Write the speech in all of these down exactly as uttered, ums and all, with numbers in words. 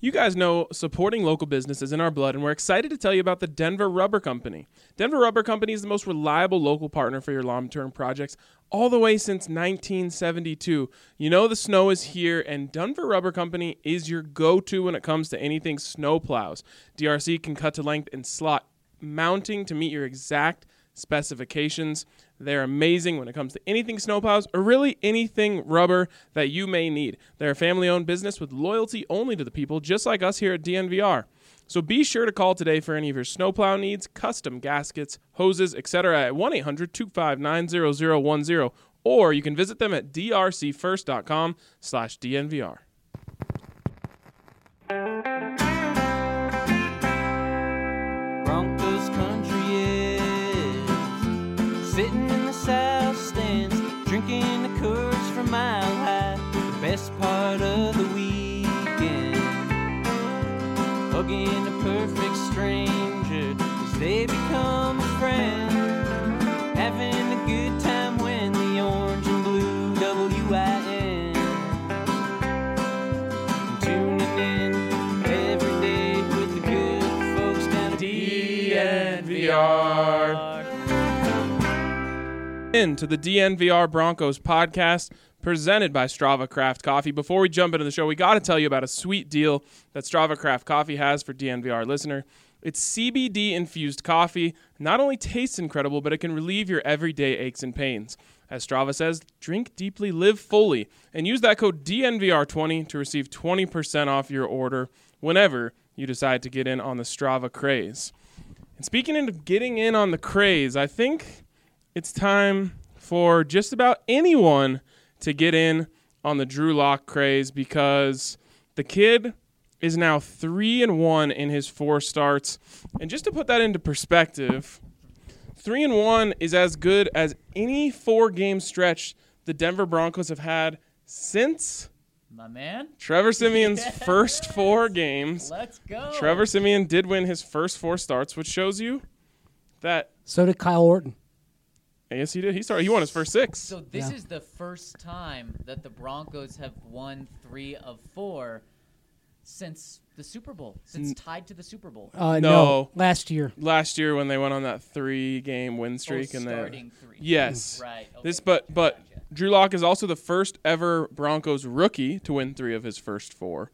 You guys know supporting local business is in our blood, and we're excited to tell you about the Denver Rubber Company. Denver Rubber Company is the most reliable local partner for your long-term projects all the way since nineteen seventy-two. You know the snow is here, and Denver Rubber Company is your go-to when it comes to anything snow plows. D R C can cut to length and slot mounting to meet your exact specifications. They're amazing when it comes to anything snowplows or really anything rubber that you may need. They're a family-owned business with loyalty only to the people, just like us here at D N V R. So be sure to call today for any of your snowplow needs, custom gaskets, hoses, et cetera at one eight hundred two five nine zero zero one zero, or you can visit them at d r c first dot com slash D N V R. Broncos country is sitting in the south stands, drinking the Coors from Mile High, the best part of the weekend. Hugging a perfect stranger as they become a friend, having a good time when the orange and blue W I N. Tuning in every day with the good folks down at D N V R. Into the D N V R Broncos podcast presented by Strava Craft Coffee. Before we jump into the show, we got to tell you about a sweet deal that Strava Craft Coffee has for D N V R listener. It's C B D-infused coffee. Not only tastes incredible, but it can relieve your everyday aches and pains. As Strava says, drink deeply, live fully, and use that code D N V R twenty to receive twenty percent off your order whenever you decide to get in on the Strava craze. And speaking of getting in on the craze, I think it's time for just about anyone to get in on the Drew Lock craze, because the kid is now three and one in his four starts. And just to put that into perspective, three and one is as good as any four-game stretch the Denver Broncos have had since my man Trevor Siemian's yes. first four games. Let's go. Trevor Siemian did win his first four starts, which shows you that. So did Kyle Orton. Yes, he did. He started. He won his first six. So this Yeah. is the first time that the Broncos have won three of four since the Super Bowl, since tied to the Super Bowl. Uh, No. no. last year. Last year when they went on that three-game win streak, oh, and they starting three. yes, Right. Okay. this but but Gotcha. Drew Lock is also the first ever Broncos rookie to win three of his first four,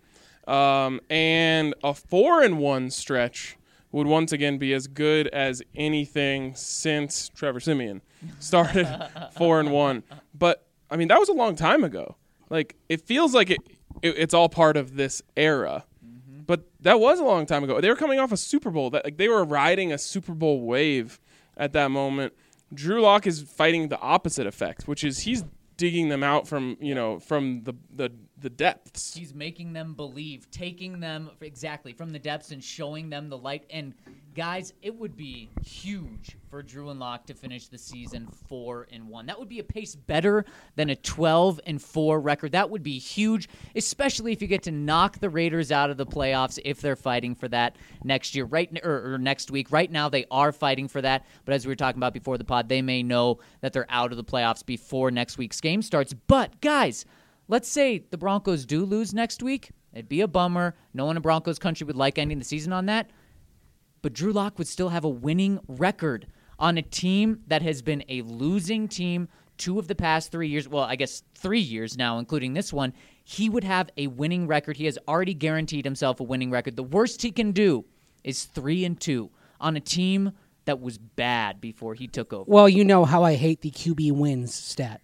um, and a four and one stretch would once again be as good as anything since Trevor Siemian started four and one. But I mean, that was a long time ago. Like, it feels like it, it it's all part of this era. Mm-hmm. But that was a long time ago. They were coming off a Super Bowl. That like they were riding a Super Bowl wave at that moment. Drew Lock is fighting the opposite effect, which is he's digging them out from, you know, from the the, the depths. He's making them believe, taking them exactly from the depths and showing them the light. And guys, it would be huge for Drew and Lock to finish the season four and one. That would be a pace better than a twelve and four record. That would be huge, especially if you get to knock the Raiders out of the playoffs if they're fighting for that next year, right or, or next week. Right now, they are fighting for that. But as we were talking about before the pod, they may know that they're out of the playoffs before next week's game starts. But guys, let's say the Broncos do lose next week. It'd be a bummer. No one in Broncos country would like ending the season on that. But Drew Lock would still have a winning record on a team that has been a losing team two of the past three years. Well, I guess three years now, including this one. He would have a winning record. He has already guaranteed himself a winning record. The worst he can do is three and two on a team that was bad before he took over. Well, you know how I hate the Q B wins stat,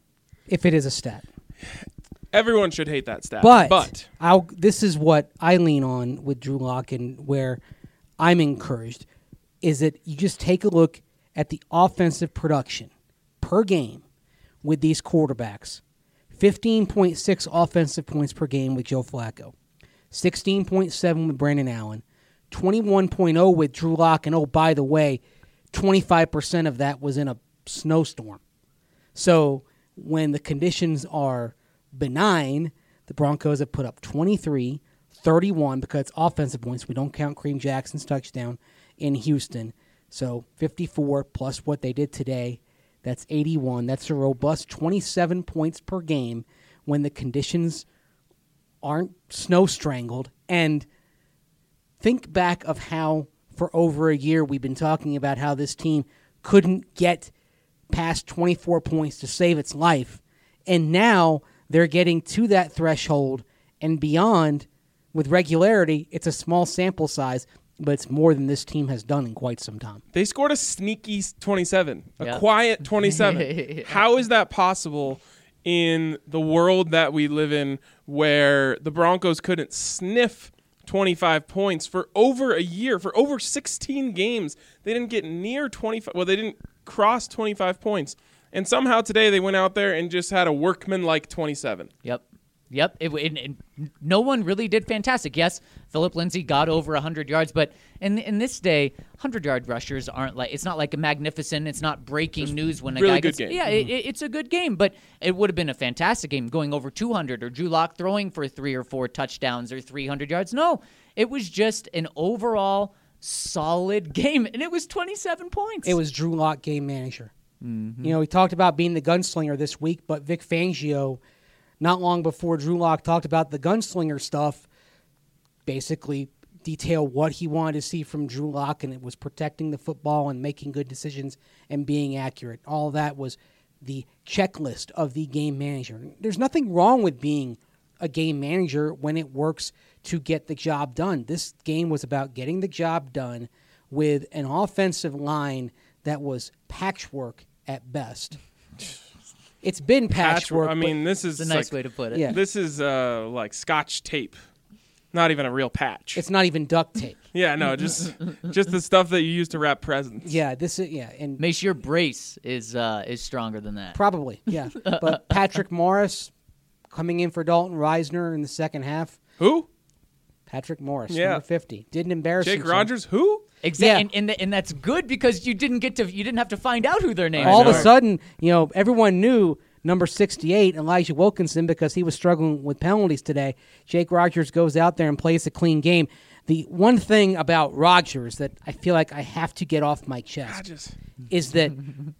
if it is a stat. Everyone should hate that stat. But, but I'll, this is what I lean on with Drew Lock, and where I'm encouraged is that you just take a look at the offensive production per game with these quarterbacks. fifteen point six offensive points per game with Joe Flacco. sixteen point seven with Brandon Allen. twenty-one point oh with Drew Lock. And, oh, by the way, twenty-five percent of that was in a snowstorm. So when the conditions are benign, the Broncos have put up twenty-three, thirty-one, because it's offensive points. We don't count Kareem Jackson's touchdown in Houston. So fifty-four plus what they did today, that's eighty-one. That's a robust twenty-seven points per game when the conditions aren't snow strangled. And think back of how for over a year we've been talking about how this team couldn't get past twenty-four points to save its life. And now they're getting to that threshold and beyond with regularity. It's a small sample size, but it's more than this team has done in quite some time. They scored a sneaky twenty-seven, a Yeah. quiet twenty-seven. How is that possible in the world that we live in where the Broncos couldn't sniff twenty-five points for over a year, for over sixteen games? They didn't get near twenty-five. Well, they didn't cross twenty-five points. And somehow today they went out there and just had a workman-like twenty-seven. Yep. Yep. It, it, it, no one really did fantastic. Yes, Philip Lindsay got over one hundred yards, but in in this day, one hundred-yard rushers aren't like, it's not like a magnificent, it's not breaking Just news when a really guy good gets, game. yeah, Mm-hmm. it, it's a good game, but it would have been a fantastic game going over two hundred or Drew Lock throwing for three or four touchdowns or three hundred yards. No, it was just an overall solid game, and it was twenty-seven points. It was Drew Lock game manager. Mm-hmm. You know, we talked about being the gunslinger this week, but Vic Fangio, not long before Drew Lock talked about the gunslinger stuff, basically detailed what he wanted to see from Drew Lock, and it was protecting the football and making good decisions and being accurate. All that was the checklist of the game manager. There's nothing wrong with being a game manager when it works to get the job done. This game was about getting the job done with an offensive line that was patchwork at best. It's been patchwork. I mean, this is It's a nice like, way to put it. Yeah. This is uh, like Scotch tape, not even a real patch. it's not even duct tape. yeah, no, just just the stuff that you use to wrap presents. Yeah, this is yeah, and Make sure brace is uh, is stronger than that. probably yeah. But Patrick Morris coming in for Dalton Reisner in the second half. Who? Patrick Morris, Yeah. number fifty, didn't embarrass Jake himself. Rogers? Who? Exactly, Yeah. and, and th- and that's good because you didn't get to you didn't have to find out who their names All of were. a sudden, you know, everyone knew number sixty-eight, Elijah Wilkinson, because he was struggling with penalties today. Jake Rogers goes out there and plays a clean game. The one thing about Rogers that I feel like I have to get off my I chest just is that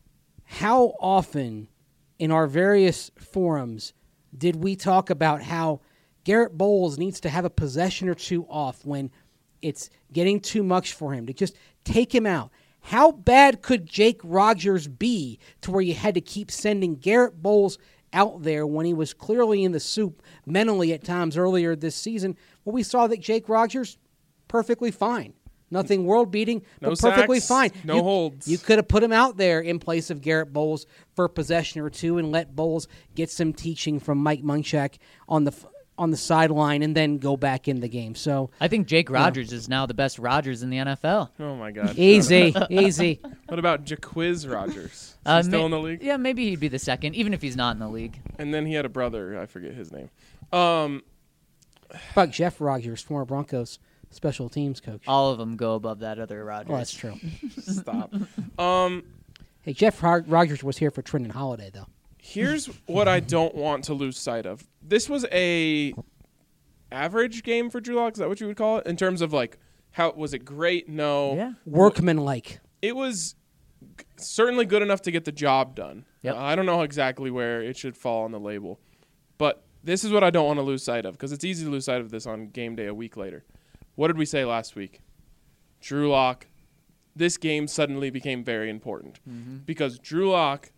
how often in our various forums did we talk about how Garrett Bowles needs to have a possession or two off when it's getting too much for him, to just take him out. How bad could Jake Rogers be to where you had to keep sending Garrett Bowles out there when he was clearly in the soup mentally at times earlier this season? Well, we saw that Jake Rogers, perfectly fine. Nothing world-beating, No but perfectly sacks, fine. no you, holds. You could have put him out there in place of Garrett Bowles for a possession or two and let Bowles get some teaching from Mike Munchak on the on the sideline and then go back in the game. So I think Jake Rogers is now the best Rogers in the N F L. oh my god. easy, easy. What about Jaquiz Rogers? Is he Uh, still ma- in the league? Yeah, maybe he'd be the second, even if he's not in the league. And then he had a brother. I forget his name. Um, How about Jeff Rogers, former Broncos special teams coach? All of them go above that other Rogers. Oh, that's true. stop. Um, Hey, Jeff Rog- Rogers was here for Trenton Holiday, though. here's what I don't want to lose sight of. This was a average game for Drew Lock. Is that what you would call it? In terms of like, how was it great? No. Yeah. Workman-like. It was g- certainly good enough to get the job done. Yep. Uh, I don't know exactly where it should fall on the label, but this is what I don't want to lose sight of because it's easy to lose sight of this on game day a week later. What did we say last week? Drew Lock. This game suddenly became very important because Drew Lock,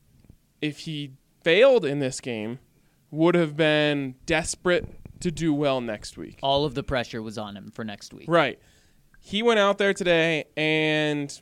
if he failed in this game, would have been desperate to do well next week. All of the pressure was on him for next week. Right. He went out there today and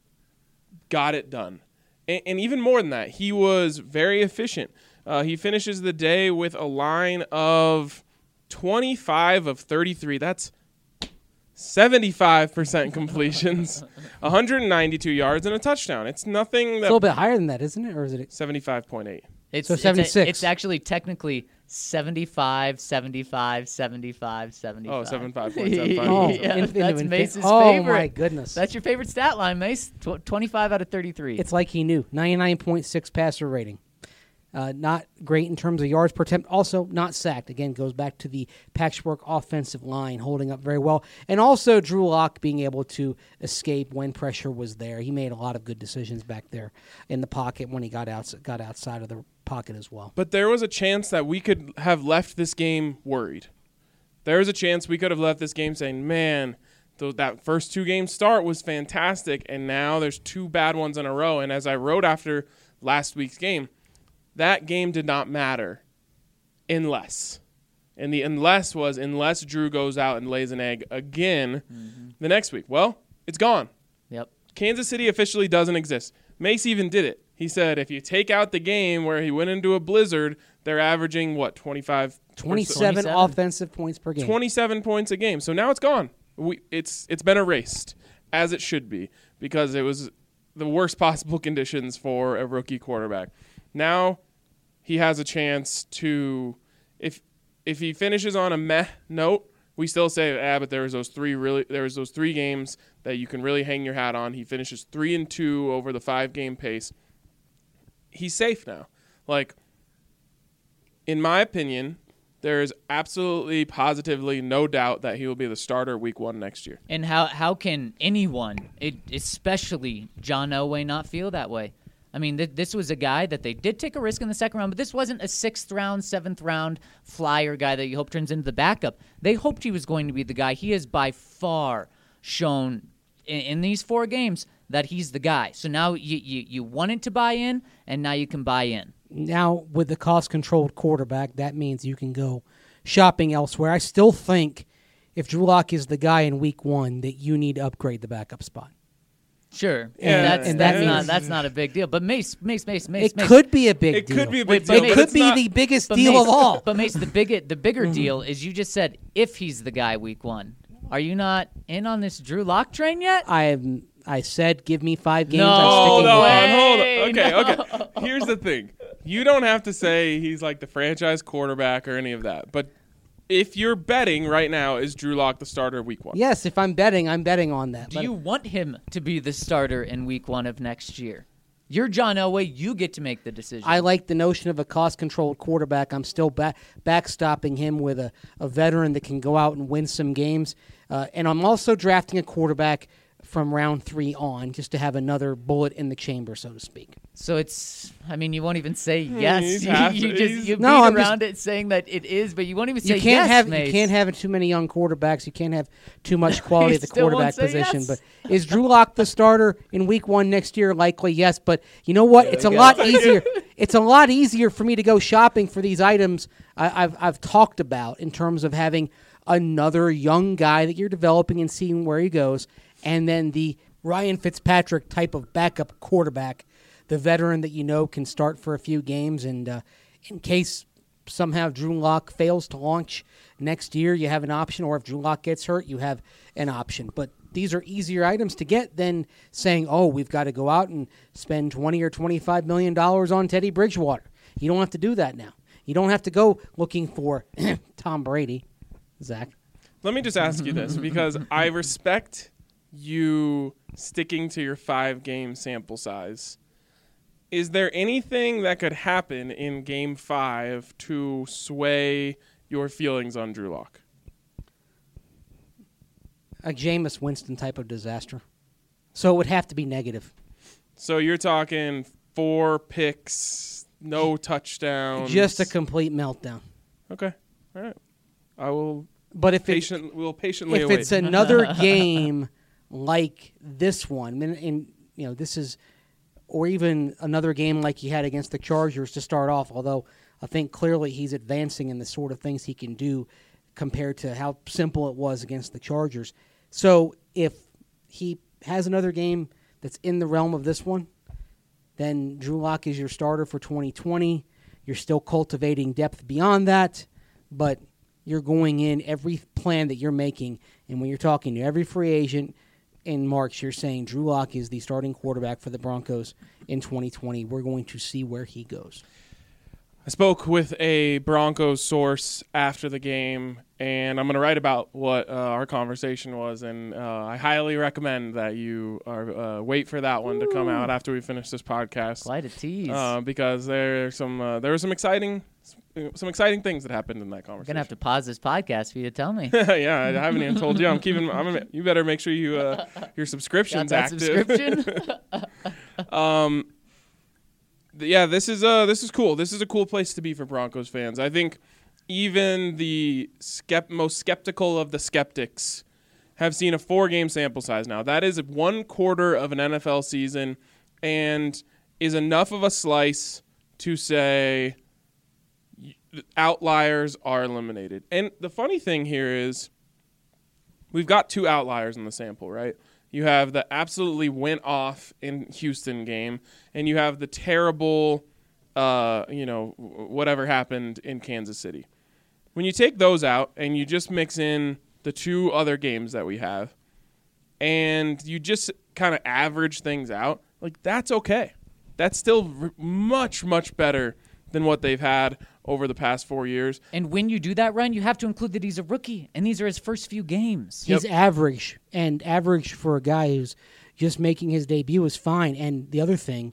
got it done. And, and even more than that, he was very efficient. Uh, he finishes the day with a line of twenty-five of thirty-three. That's seventy-five percent completions, one hundred ninety-two yards, and a touchdown. It's nothing It's a little that... bit higher than that, isn't it? Or is it? seventy-five point eight. It's, So it's a- seventy-six. It's, actually technically seventy-five, seventy-five, seventy-five, seventy-five. Oh, seventy-five point seven five. Oh, yeah, in- into that's infi- Mace's oh, favorite. my goodness. That's your favorite stat line, Mace. Tw- twenty-five out of thirty-three. It's like he knew. ninety-nine point six passer rating. Uh, not great in terms of yards per attempt. Also, not sacked. Again, goes back to the patchwork offensive line holding up very well. And also, Drew Lock being able to escape when pressure was there. He made a lot of good decisions back there in the pocket when he got out, got outside of the pocket as well. But there was a chance that we could have left this game worried. There was a chance we could have left this game saying, man, th- that first two-game start was fantastic, and now there's two bad ones in a row. And as I wrote after last week's game, that game did not matter unless. And the unless was unless Drew goes out and lays an egg again mm-hmm. the next week. Well, it's gone. Yep. Kansas City officially doesn't exist. Mace even did it. He said if you take out the game where he went into a blizzard, they're averaging, what, twenty-five? twenty-seven, twenty-seven offensive points per game. twenty-seven points a game. So now it's gone. We, it's It's been erased, as it should be, because it was the worst possible conditions for a rookie quarterback. Now he has a chance to, if if he finishes on a meh note, we still say, ah, but there was those three really, there was those three games that you can really hang your hat on. He finishes three and two over the five game pace. He's safe now. Like, in my opinion, there is absolutely, positively no doubt that he will be the starter week one next year. And how how can anyone, it, especially John Elway, not feel that way? I mean, th- this was a guy that they did take a risk in the second round, but this wasn't a sixth round, seventh round flyer guy that you hope turns into the backup. They hoped he was going to be the guy. He has by far shown in, in these four games that he's the guy. So now you, you, you wanted to buy in, and now you can buy in. Now, with the cost-controlled quarterback, that means you can go shopping elsewhere. I still think if Drew Lock is the guy in week one, that you need to upgrade the backup spot. Sure, Yeah, and that's and that's that not means- that's not a big deal. But Mace, Mace, Mace, Mace, It Mace. could be a big It deal. could be a Wait, big but deal, Mace- It but could it's be not- the biggest But deal Mace, of all. But Mace, the big the bigger deal is you just said if he's the guy week one. Are you not in on this Drew Lock train yet? I am. I said, give me five games. No, I'm Hold sticking on, with it. hold way, on. Okay, no. okay. Here's the thing. You don't have to say he's like the franchise quarterback or any of that. But if you're betting right now, is Drew Lock the starter week one? Yes, if I'm betting, I'm betting on that. Do But you want him to be the starter in week one of next year? You're John Elway. You get to make the decision. I like the notion of a cost-controlled quarterback. I'm still back, backstopping him with a, a veteran that can go out and win some games. Uh, and I'm also drafting a quarterback from round three on, just to have another bullet in the chamber, so to speak. So it's, I mean, you won't even say yes. he's You, half- you he's- just you beat No, I'm around it saying that it is, but you won't even say You can't yes, have Mace. you can't have too many young quarterbacks. You can't have too much quality He at the still won't quarterback say position. yes. But is Drew Lock the starter in week one next year? Likely, yes. But you know what? It's a we lot go. easier. It's a lot easier for me to go shopping for these items I, I've I've talked about in terms of having another young guy that you're developing and seeing where he goes, and then the Ryan Fitzpatrick type of backup quarterback, the veteran that you know can start for a few games, and uh, in case somehow Drew Lock fails to launch next year, you have an option, or if Drew Lock gets hurt, you have an option. But these are easier items to get than saying, oh, we've got to go out and spend twenty or twenty-five million dollars on Teddy Bridgewater. You don't have to do that now. You don't have to go looking for Tom Brady, Zach. Let me just ask you this, because I respect you sticking to your five-game sample size. Is there anything that could happen in Game five to sway your feelings on Drew Lock? A Jameis Winston type of disaster. So it would have to be negative. So you're talking four picks, no touchdowns. Just a complete meltdown. Okay. All right. I will But if it's, patient. We'll patiently if await. it's another game like this one, and, and you know this is, or even another game like he had against the Chargers to start off, although I think clearly he's advancing in the sort of things he can do compared to how simple it was against the Chargers. So if he has another game that's in the realm of this one, then Drew Lock is your starter for twenty twenty. You're still cultivating depth beyond that, but you're going in every plan that you're making, and when you're talking to every free agent in March, you're saying Drew Lock is the starting quarterback for the Broncos in twenty twenty. We're going to see where he goes. I spoke with a Broncos source after the game, and I'm going to write about what uh, our conversation was, and uh, I highly recommend that you are, uh, wait for that one Ooh. to come out after we finish this podcast. Quite a tease. Uh, because there are some uh, there were some exciting some exciting things that happened in that conversation. I'm gonna have to pause this podcast for you to tell me. Yeah, I haven't even told you. I'm keeping. I'm gonna, you better make sure you uh, your subscription's Got that active. Subscription? um. Yeah, this is uh this is cool. This is a cool place to be for Broncos fans. I think even the skept- most skeptical of the skeptics have seen a four-game sample size now. That is one quarter of an N F L season and is enough of a slice to say outliers are eliminated. And the funny thing here is we've got two outliers in the sample, right? You have the absolutely went off in Houston game, and you have the terrible, uh, you know, whatever happened in Kansas City. When you take those out and you just mix in the two other games that we have, and you just kind of average things out, like that's okay. That's still r- much, much better than what they've had over the past four years. And when you do that, Ryan, you have to include that he's a rookie, and these are his first few games. He's Yep. average, and average for a guy who's just making his debut is fine. And the other thing,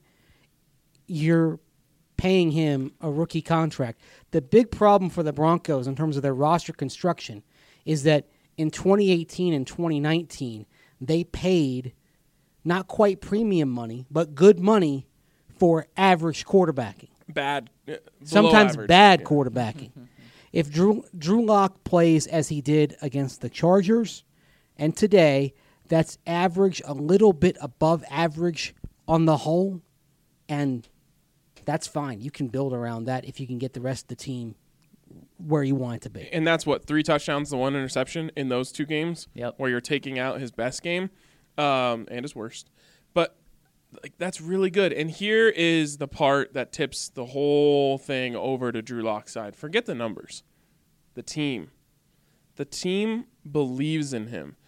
you're paying him a rookie contract. The big problem for the Broncos in terms of their roster construction is that in twenty eighteen and twenty nineteen, they paid not quite premium money, but good money for average quarterbacking. Bad. Uh, Sometimes average. bad Yeah. quarterbacking. If Drew Drew Lock plays as he did against the Chargers, and today, that's average, a little bit above average on the whole, and that's fine. You can build around that if you can get the rest of the team where you want it to be. And that's what, three touchdowns to one interception in those two games, Yep. where you're taking out his best game um, and his worst. But like that's really good. And here is the part that tips the whole thing over to Drew Lock's side. Forget the numbers. The team. The team believes in him.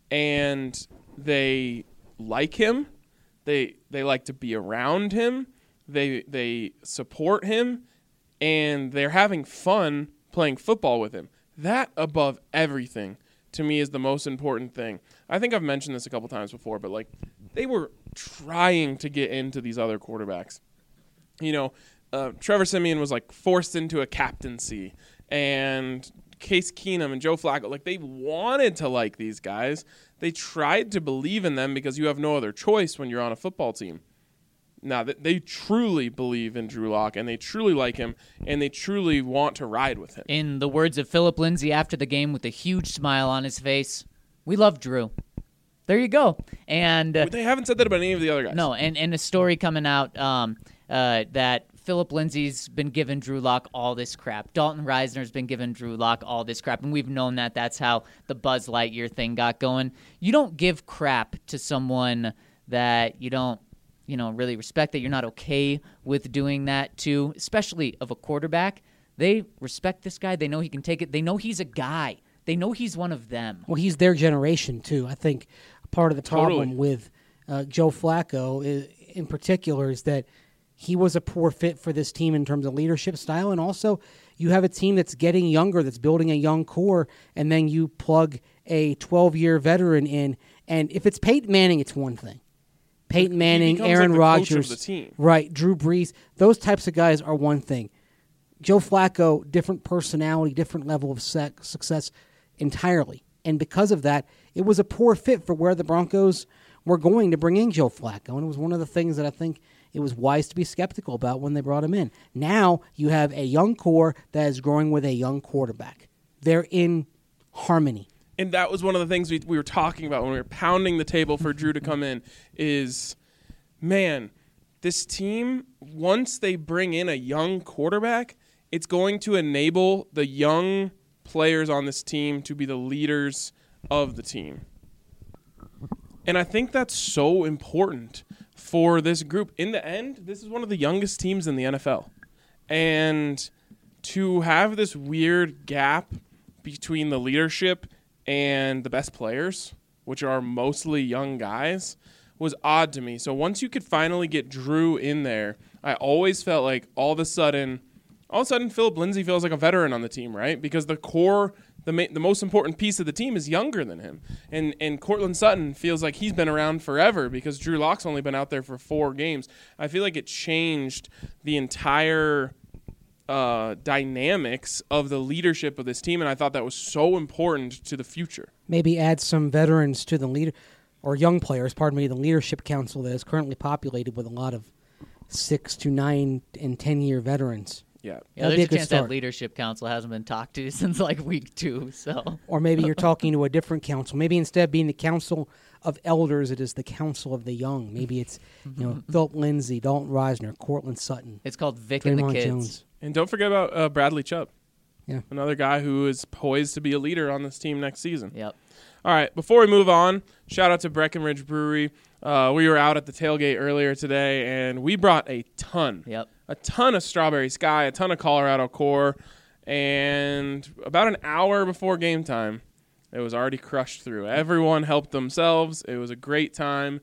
And they like him. They they like to be around him. They they support him. And they're having fun playing football with him. That above everything to me is the most important thing. I think I've mentioned this a couple times before, but like they were trying to get into these other quarterbacks. You know, uh, Trevor Siemian was like forced into a captaincy, and Case Keenum and Joe Flacco, like they wanted to like these guys. They tried to believe in them because you have no other choice when you're on a football team. Now, they truly believe in Drew Lock, and they truly like him, and they truly want to ride with him. In the words of Philip Lindsay after the game with a huge smile on his face, we love Drew. There you go. And uh, But they haven't said that about any of the other guys. no, and, and a story coming out um, uh, that Philip Lindsay's been giving Drew Lock all this crap. Dalton Reisner's been giving Drew Lock all this crap, and we've known that. That's how the Buzz Lightyear thing got going. You don't give crap to someone that you don't you know, really respect, that you're not okay with doing that to, especially of a quarterback. They respect this guy. They know he can take it. They know he's a guy. They know he's one of them. Well, he's their generation, too. I think part of the problem Totally. with uh, Joe Flacco is, in particular is that he was a poor fit for this team in terms of leadership style, and also you have a team that's getting younger, that's building a young core, and then you plug a twelve-year veteran in, and if it's Peyton Manning, it's one thing. Peyton Manning, becomes Aaron like the coach of Rodgers, the team. right, Drew Brees, those types of guys are one thing. Joe Flacco, different personality, different level of sec- success entirely. And because of that, it was a poor fit for where the Broncos were going to bring in Joe Flacco. And it was one of the things that I think it was wise to be skeptical about when they brought him in. Now you have a young core that is growing with a young quarterback. They're in harmony. And that was one of the things we, we were talking about when we were pounding the table for Drew to come in is, man, this team, once they bring in a young quarterback, it's going to enable the young players on this team to be the leaders of the team. And I think that's so important for this group. In the end, this is one of the youngest teams in the N F L. And to have this weird gap between the leadership and the best players, which are mostly young guys, was odd to me. So once you could finally get Drew in there, I always felt like all of a sudden all of a sudden Philip Lindsay feels like a veteran on the team, right? Because the core, the ma- the most important piece of the team is younger than him. And and Cortland Sutton feels like he's been around forever because Drew Lock's only been out there for four games. I feel like it changed the entire uh, dynamics of the leadership of this team, and I thought that was so important to the future. Maybe add some veterans to the leader, or young players, pardon me, the leadership council that is currently populated with a lot of six to nine and ten year veterans. Yeah. Yeah, That'd there's be a a good chance that start. leadership council hasn't been talked to since like week two. So Or maybe you're talking to a different council. Maybe instead of being the council of elders, it is the council of the young. Maybe it's you know Philip Lindsay, Dalton Reisner, Cortland Sutton, it's called Vic and the Draymond Kids. Jones. And don't forget about uh, Bradley Chubb. Yeah. Another guy who is poised to be a leader on this team next season. Yep. All right, before we move on, shout out to Breckenridge Brewery. Uh, we were out at the tailgate earlier today, and we brought a ton, Yep. a ton of Strawberry Sky, a ton of Colorado Core, and about an hour before game time, it was already crushed through. Everyone helped themselves. It was a great time,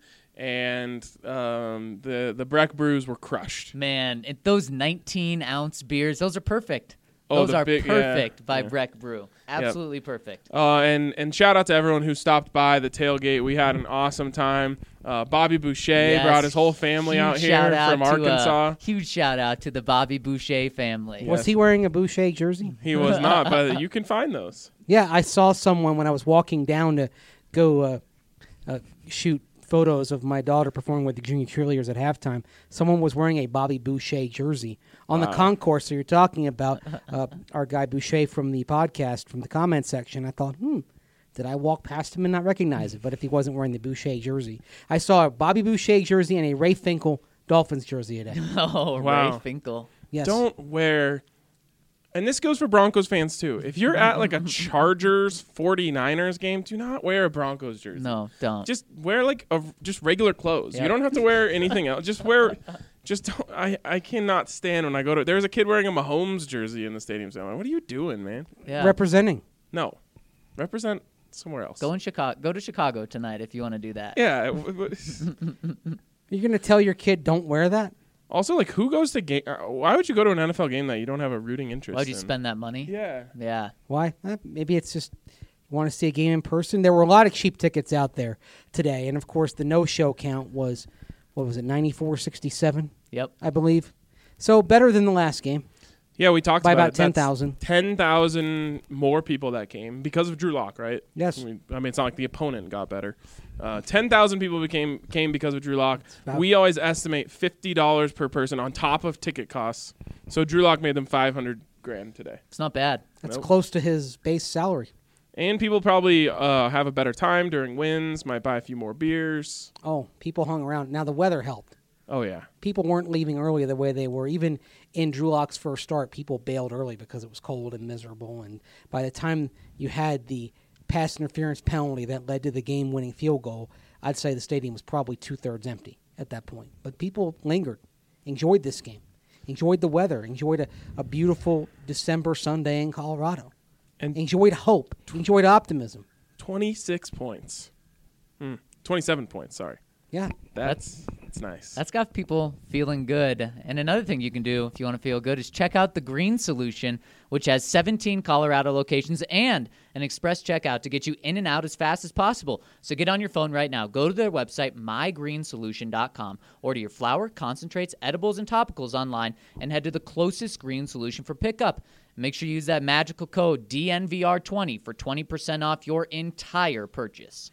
and um, the the Breck Brews were crushed. Man, it, those nineteen ounce beers, those are perfect. Oh, Those the are big- yeah, perfect by yeah. Breck Brew. Absolutely perfect. Uh, and and shout out to everyone who stopped by the tailgate. We had an awesome time. Uh, Bobby Boucher Yes. brought his whole family Huge out here shout out from to, uh, Arkansas. huge shout out to the Bobby Boucher family. Yeah. Was he wearing a Boucher jersey? He was not, but you can find those. Yeah, I saw someone when I was walking down to go uh, uh, shoot photos of my daughter performing with the junior cheerleaders at halftime. Someone was wearing a Bobby Boucher jersey on Wow. the concourse. So you're talking about uh, our guy Boucher from the podcast, from the comment section. I thought, hmm, did I walk past him and not recognize it? But if he wasn't wearing the Boucher jersey, I saw a Bobby Boucher jersey and a Ray Finkel Dolphins jersey today. Oh, Wow. Ray Finkel. Yes. Don't wear, and this goes for Broncos fans too. If you're at like a Chargers forty-niners game, do not wear a Broncos jersey. No, don't. Just wear like a just regular clothes. Yep. You don't have to wear anything else. Just wear. Just don't, I I cannot stand when I go to. There's a kid wearing a Mahomes jersey in the stadium. So I'm like, what are you doing, man? yeah. Representing. No, represent somewhere else. Go in Chicago. Go to Chicago tonight if you want to do that. Yeah. w- w- You're going to tell your kid don't wear that? Also, like, who goes to game? Why would you go to an N F L game that you don't have a rooting interest? Why'd you in? spend that money? Yeah. Yeah. Why? Eh, maybe it's just you want to see a game in person. There were a lot of cheap tickets out there today, and of course the no-show count was what was it, ninety-four sixty-seven, Yep. I believe. So better than the last game Yeah, we talked by about about it. ten That's thousand. ten thousand more people that came because of Drew Lock, right? Yes. I mean, I mean, it's not like the opponent got better. Uh, ten thousand people became came because of Drew Lock. about- We always estimate fifty dollars per person on top of ticket costs. So Drew Lock made them five hundred grand today. It's not bad. That's Nope. close to his base salary. And people probably uh, have a better time during wins. Might buy a few more beers. Oh, people hung around. Now the weather helped. Oh yeah. People weren't leaving early the way they were. Even in Drew Lock's first start, people bailed early because it was cold and miserable. And by the time you had the pass interference penalty that led to the game-winning field goal, I'd say the stadium was probably two-thirds empty at that point. But people lingered, enjoyed this game, enjoyed the weather, enjoyed a, a beautiful December Sunday in Colorado, And enjoyed hope, enjoyed optimism. twenty-six points. Hmm. twenty-seven points, sorry. Yeah. That's that's nice. That's got people feeling good. And another thing you can do if you want to feel good is check out the Green Solution, which has seventeen Colorado locations and an express checkout to get you in and out as fast as possible. So get on your phone right now. Go to their website, my green solution dot com. Order your flour, concentrates, edibles, and topicals online and head to the closest Green Solution for pickup. Make sure you use that magical code D N V R twenty for twenty percent off your entire purchase.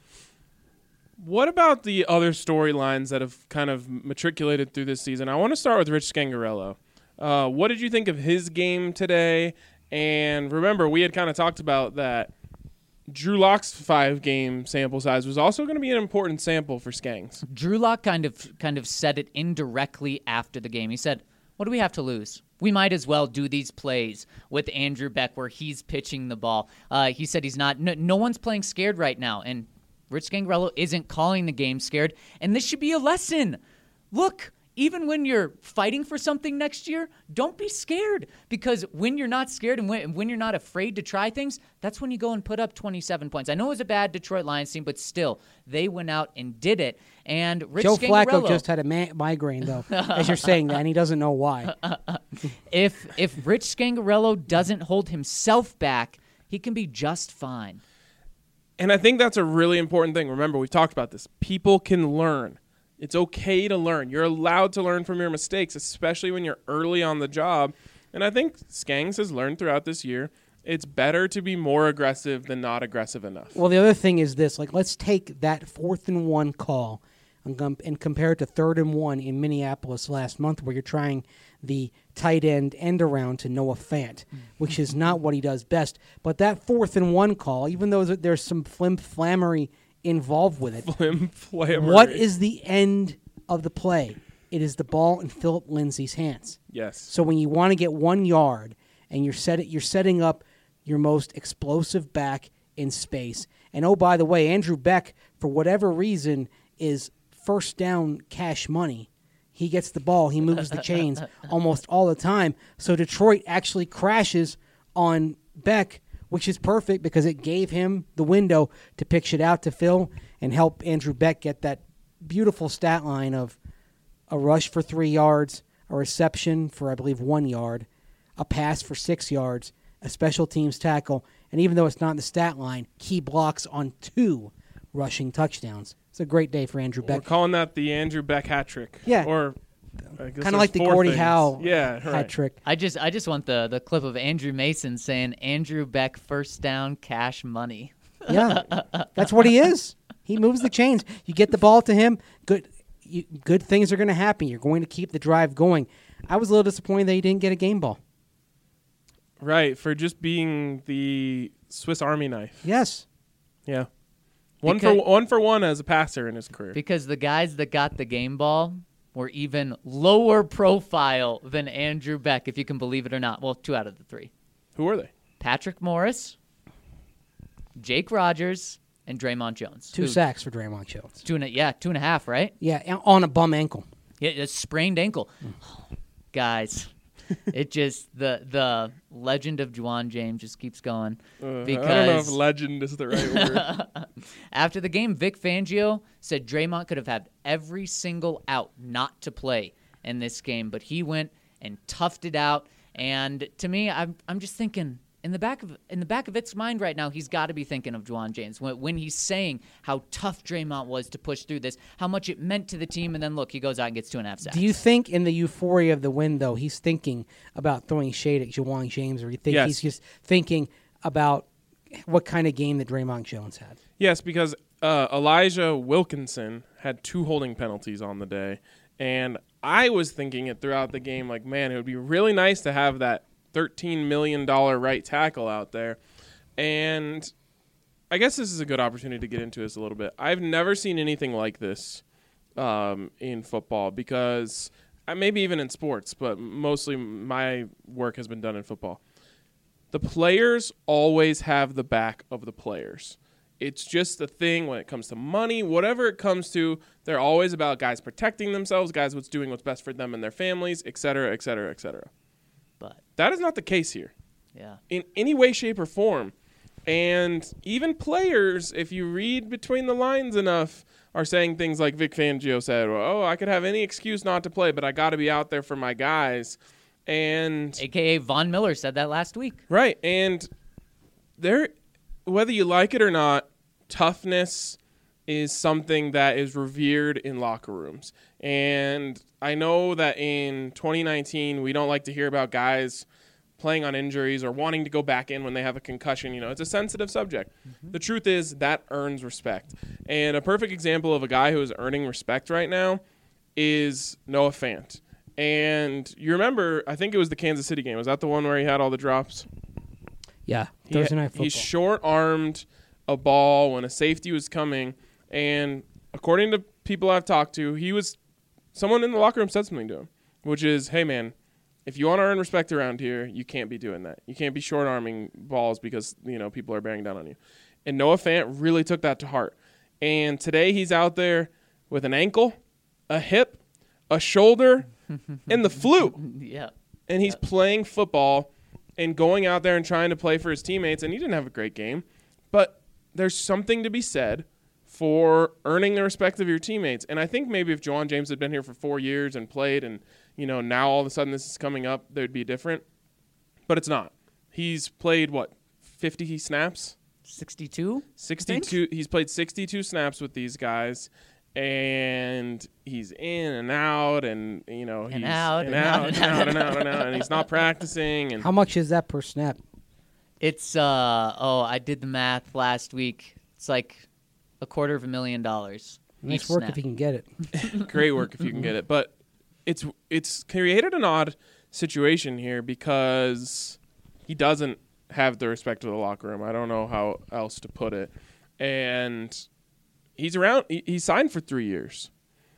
What about the other storylines that have kind of matriculated through this season? I want to start with Rich Scangarello. Uh, what did you think of his game today? And remember, we had kind of talked about that Drew Lock's five-game sample size was also going to be an important sample for Skangs. Drew Lock kind of kind of said it indirectly after the game. He said, what do we have to lose? We might as well do these plays with Andrew Beck where he's pitching the ball. Uh, he said he's not, no, no one's playing scared right now. And Rich Scangarello isn't calling the game scared. And this should be a lesson. Look, even when you're fighting for something next year, don't be scared. Because when you're not scared and when, when you're not afraid to try things, that's when you go and put up twenty-seven points. I know it was a bad Detroit Lions team, but still, they went out and did it. And Rich Joe Scangarello, Flacco just had a ma- migraine, though, as you're saying that, and he doesn't know why. if if Rich Scangarello doesn't hold himself back, he can be just fine. And I think that's a really important thing. Remember, we've talked about this. People can learn. It's okay to learn. You're allowed to learn from your mistakes, especially when you're early on the job. And I think Skangs has learned throughout this year, it's better to be more aggressive than not aggressive enough. Well, the other thing is this. Like, let's take that fourth and one call and, com- and compare it to third and one in Minneapolis last month where you're trying the tight end end around to Noah Fant, which is not what he does best. But that fourth and one call, even though there's some flim-flammery involved with it, Flim-flammery. What is the end of the play? It is the ball in Philip Lindsay's hands. Yes. So when you want to get one yard and you're set, you're setting up your most explosive back in space. And oh, by the way, Andrew Beck, for whatever reason, is first down cash money. He gets the ball. He moves the chains almost all the time. So Detroit actually crashes on Beck, which is perfect because it gave him the window to pitch shit out to Phil and help Andrew Beck get that beautiful stat line of a rush for three yards, a reception for, I believe, one yard, a pass for six yards, a special teams tackle, and even though it's not in the stat line, key blocks on two rushing touchdowns. It's a great day for Andrew Beck. We're calling that the Andrew Beck hat trick. Yeah. Or kind of like the Gordie things. Howe yeah, hat right. trick. I just I just want the, the clip of Andrew Mason saying Andrew Beck first down cash money. Yeah, that's what he is. He moves the chains. You get the ball to him, good you, good things are going to happen. You're going to keep the drive going. I was a little disappointed that he didn't get a game ball. Right, for just being the Swiss Army knife. Yes. Yeah. One Because- for one for one as a passer in his career. Because the guys that got the game ball were even lower profile than Andrew Beck, if you can believe it or not. Well, two out of the three. Who are they? Patrick Morris, Jake Rogers, and Draymond Jones. Two Who- sacks for Draymond Jones. Two and a, yeah, two and a half, right? Yeah, and on a bum ankle. Yeah, a sprained ankle. Guys, it just the the legend of Juwan James just keeps going. Uh, because I don't know if legend is the right word. After the game, Vic Fangio said Draymond could have had every single out not to play in this game, but he went and toughed it out. And to me, I'm I'm just thinking in the back of in the back of its mind right now, he's got to be thinking of Juwan James when, when he's saying how tough Draymond was to push through this, how much it meant to the team, and then look, he goes out and gets two and a half sacks. Do you think in the euphoria of the win, though, he's thinking about throwing shade at Juwan James, or you think Yes. he's just thinking about what kind of game that Draymond Jones had? Yes, because uh, Elijah Wilkinson had two holding penalties on the day, and I was thinking it throughout the game, like, man, it would be really nice to have that thirteen million dollars right tackle out there. And I guess this is a good opportunity to get into this a little bit. I've never seen anything like this um, in football because uh, maybe even in sports, but mostly my work has been done in football. The players always have the back of the players. It's just the thing when it comes to money, whatever it comes to, they're always about guys protecting themselves, guys what's doing what's best for them and their families, et cetera, et cetera, et cetera. But That is not the case here yeah, in any way, shape, or form. And even players, if you read between the lines enough, are saying things like Vic Fangio said, well, oh, I could have any excuse not to play, but I got to be out there for my guys. And A K A Von Miller said that last week. right, and there, whether you like it or not, toughness is something that is revered in locker rooms. And I know that in twenty nineteen, we don't like to hear about guys playing on injuries or wanting to go back in when they have a concussion. You know, it's a sensitive subject. Mm-hmm. The truth is that earns respect. And a perfect example of a guy who is earning respect right now is Noah Fant. And you remember, I think it was the Kansas City game. Was that the one where he had all the drops? Yeah, He- Thursday Night Football. He short-armed a ball when a safety was coming, and according to people I've talked to, he was someone in the locker room said something to him, which is, hey, man, if you want to earn respect around here, you can't be doing that. You can't be short-arming balls because, you know, people are bearing down on you. And Noah Fant really took that to heart. And today he's out there with an ankle, a hip, a shoulder, and the flu. Yeah. And he's playing football and going out there and trying to play for his teammates, and he didn't have a great game. But there's something to be said for earning the respect of your teammates. And I think maybe if Juwan James had been here for four years and played and, you know, now all of a sudden this is coming up, they'd be different. But it's not. He's played, what, fifty snaps? sixty-two? sixty-two. He's played sixty-two snaps with these guys, and he's in and out, and, you know, he's And out, and and out, out, and out, and out, and out, and he's not practicing. And How much is that per snap? It's, uh, oh, I did the math last week. It's like a quarter of a million dollars. Nice each work snap. if you can get it. great work if you can get it. But it's it's created an odd situation here because he doesn't have the respect of the locker room. I don't know how else to put it. And he's around. He, he's signed for three years.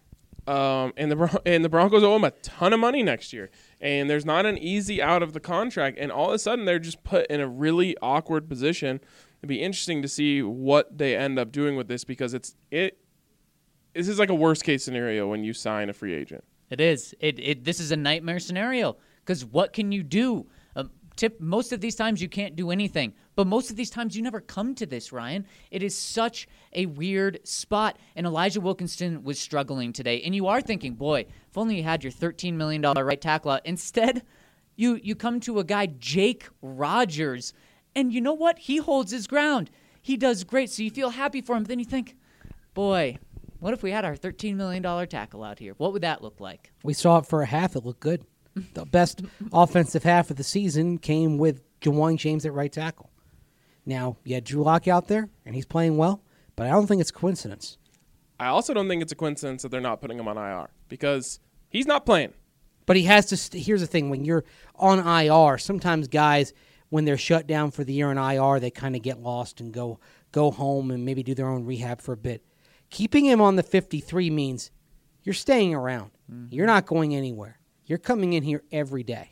Um, and the Bron- and the Broncos owe him a ton of money next year. And there's not an easy out of the contract. And all of a sudden, they're just put in a really awkward position. It'd be interesting to see what they end up doing with this because it's it. This is like a worst case scenario when you sign a free agent. It is. It, it This is a nightmare scenario because what can you do? Um, tip, most of these times you can't do anything, but most of these times you never come to this, Ryan. It is such a weird spot, and Elijah Wilkinson was struggling today, and you are thinking, boy, if only you had your thirteen million dollars right tackle out. Instead, you, you come to a guy, Jake Rogers, and you know what? He holds his ground. He does great, so you feel happy for him, but then you think, boy, what if we had our thirteen million dollars tackle out here? What would that look like? We saw it for a half. It looked good. The best offensive half of the season came with Juwan James at right tackle. Now, you had Drew Lock out there, and he's playing well, but I don't think it's a coincidence. I also don't think it's a coincidence that they're not putting him on I R because he's not playing. But he has to st- – here's the thing. When you're on I R, sometimes guys, when they're shut down for the year in I R, they kind of get lost and go go home and maybe do their own rehab for a bit. Keeping him on the fifty-three means you're staying around. Mm-hmm. You're not going anywhere. You're coming in here every day.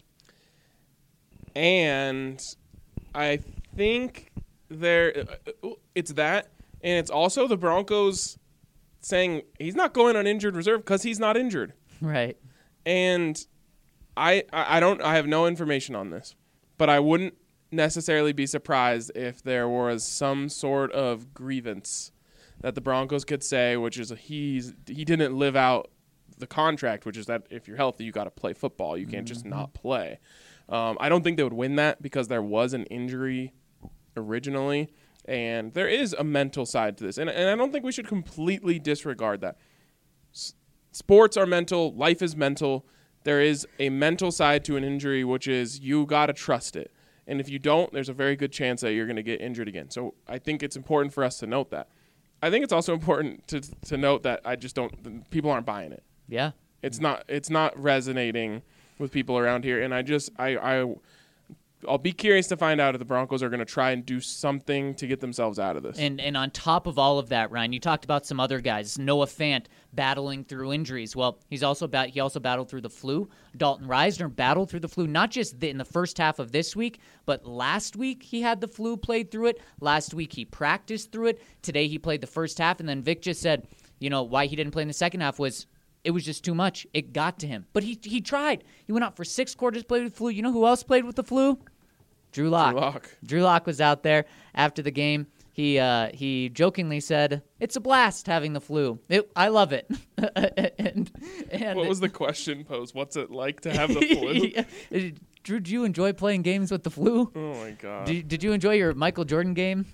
And I think there it's that, and it's also the Broncos saying he's not going on injured reserve because he's not injured. Right. And I I don't I have no information on this, but I wouldn't necessarily be surprised if there was some sort of grievance that the Broncos could say, which is he's he didn't live out the contract, which is that if you're healthy, you got to play football. You can't mm-hmm. just not play. Um, I don't think they would win that because there was an injury originally, and there is a mental side to this, and and I don't think we should completely disregard that. S- sports are mental. Life is mental. There is a mental side to an injury, which is you got to trust it. And if you don't, there's a very good chance that you're going to get injured again. So I think it's important for us to note that. I think it's also important to to note that I just don't people aren't buying it. Yeah. It's not it's not resonating with people around here, and I just I I I'll be curious to find out if the Broncos are going to try and do something to get themselves out of this. And and on top of all of that, Ryan, you talked about some other guys. Noah Fant battling through injuries. Well, he's also bat- he also battled through the flu. Dalton Reisner battled through the flu, not just in the first half of this week, but last week he had the flu, played through it. Last week he practiced through it. Today he played the first half, and then Vic just said, you know, why he didn't play in the second half was it was just too much. It got to him. But he he tried. He went out for six quarters, played with the flu. You know who else played with the flu? Drew Lock. Drew Lock. Drew Lock was out there after the game. He uh, he jokingly said, "It's a blast having the flu. It, I love it." and, and what was the question posed? What's it like to have the flu? Drew, did you enjoy playing games with the flu? Oh my god! Did, did you enjoy your Michael Jordan game?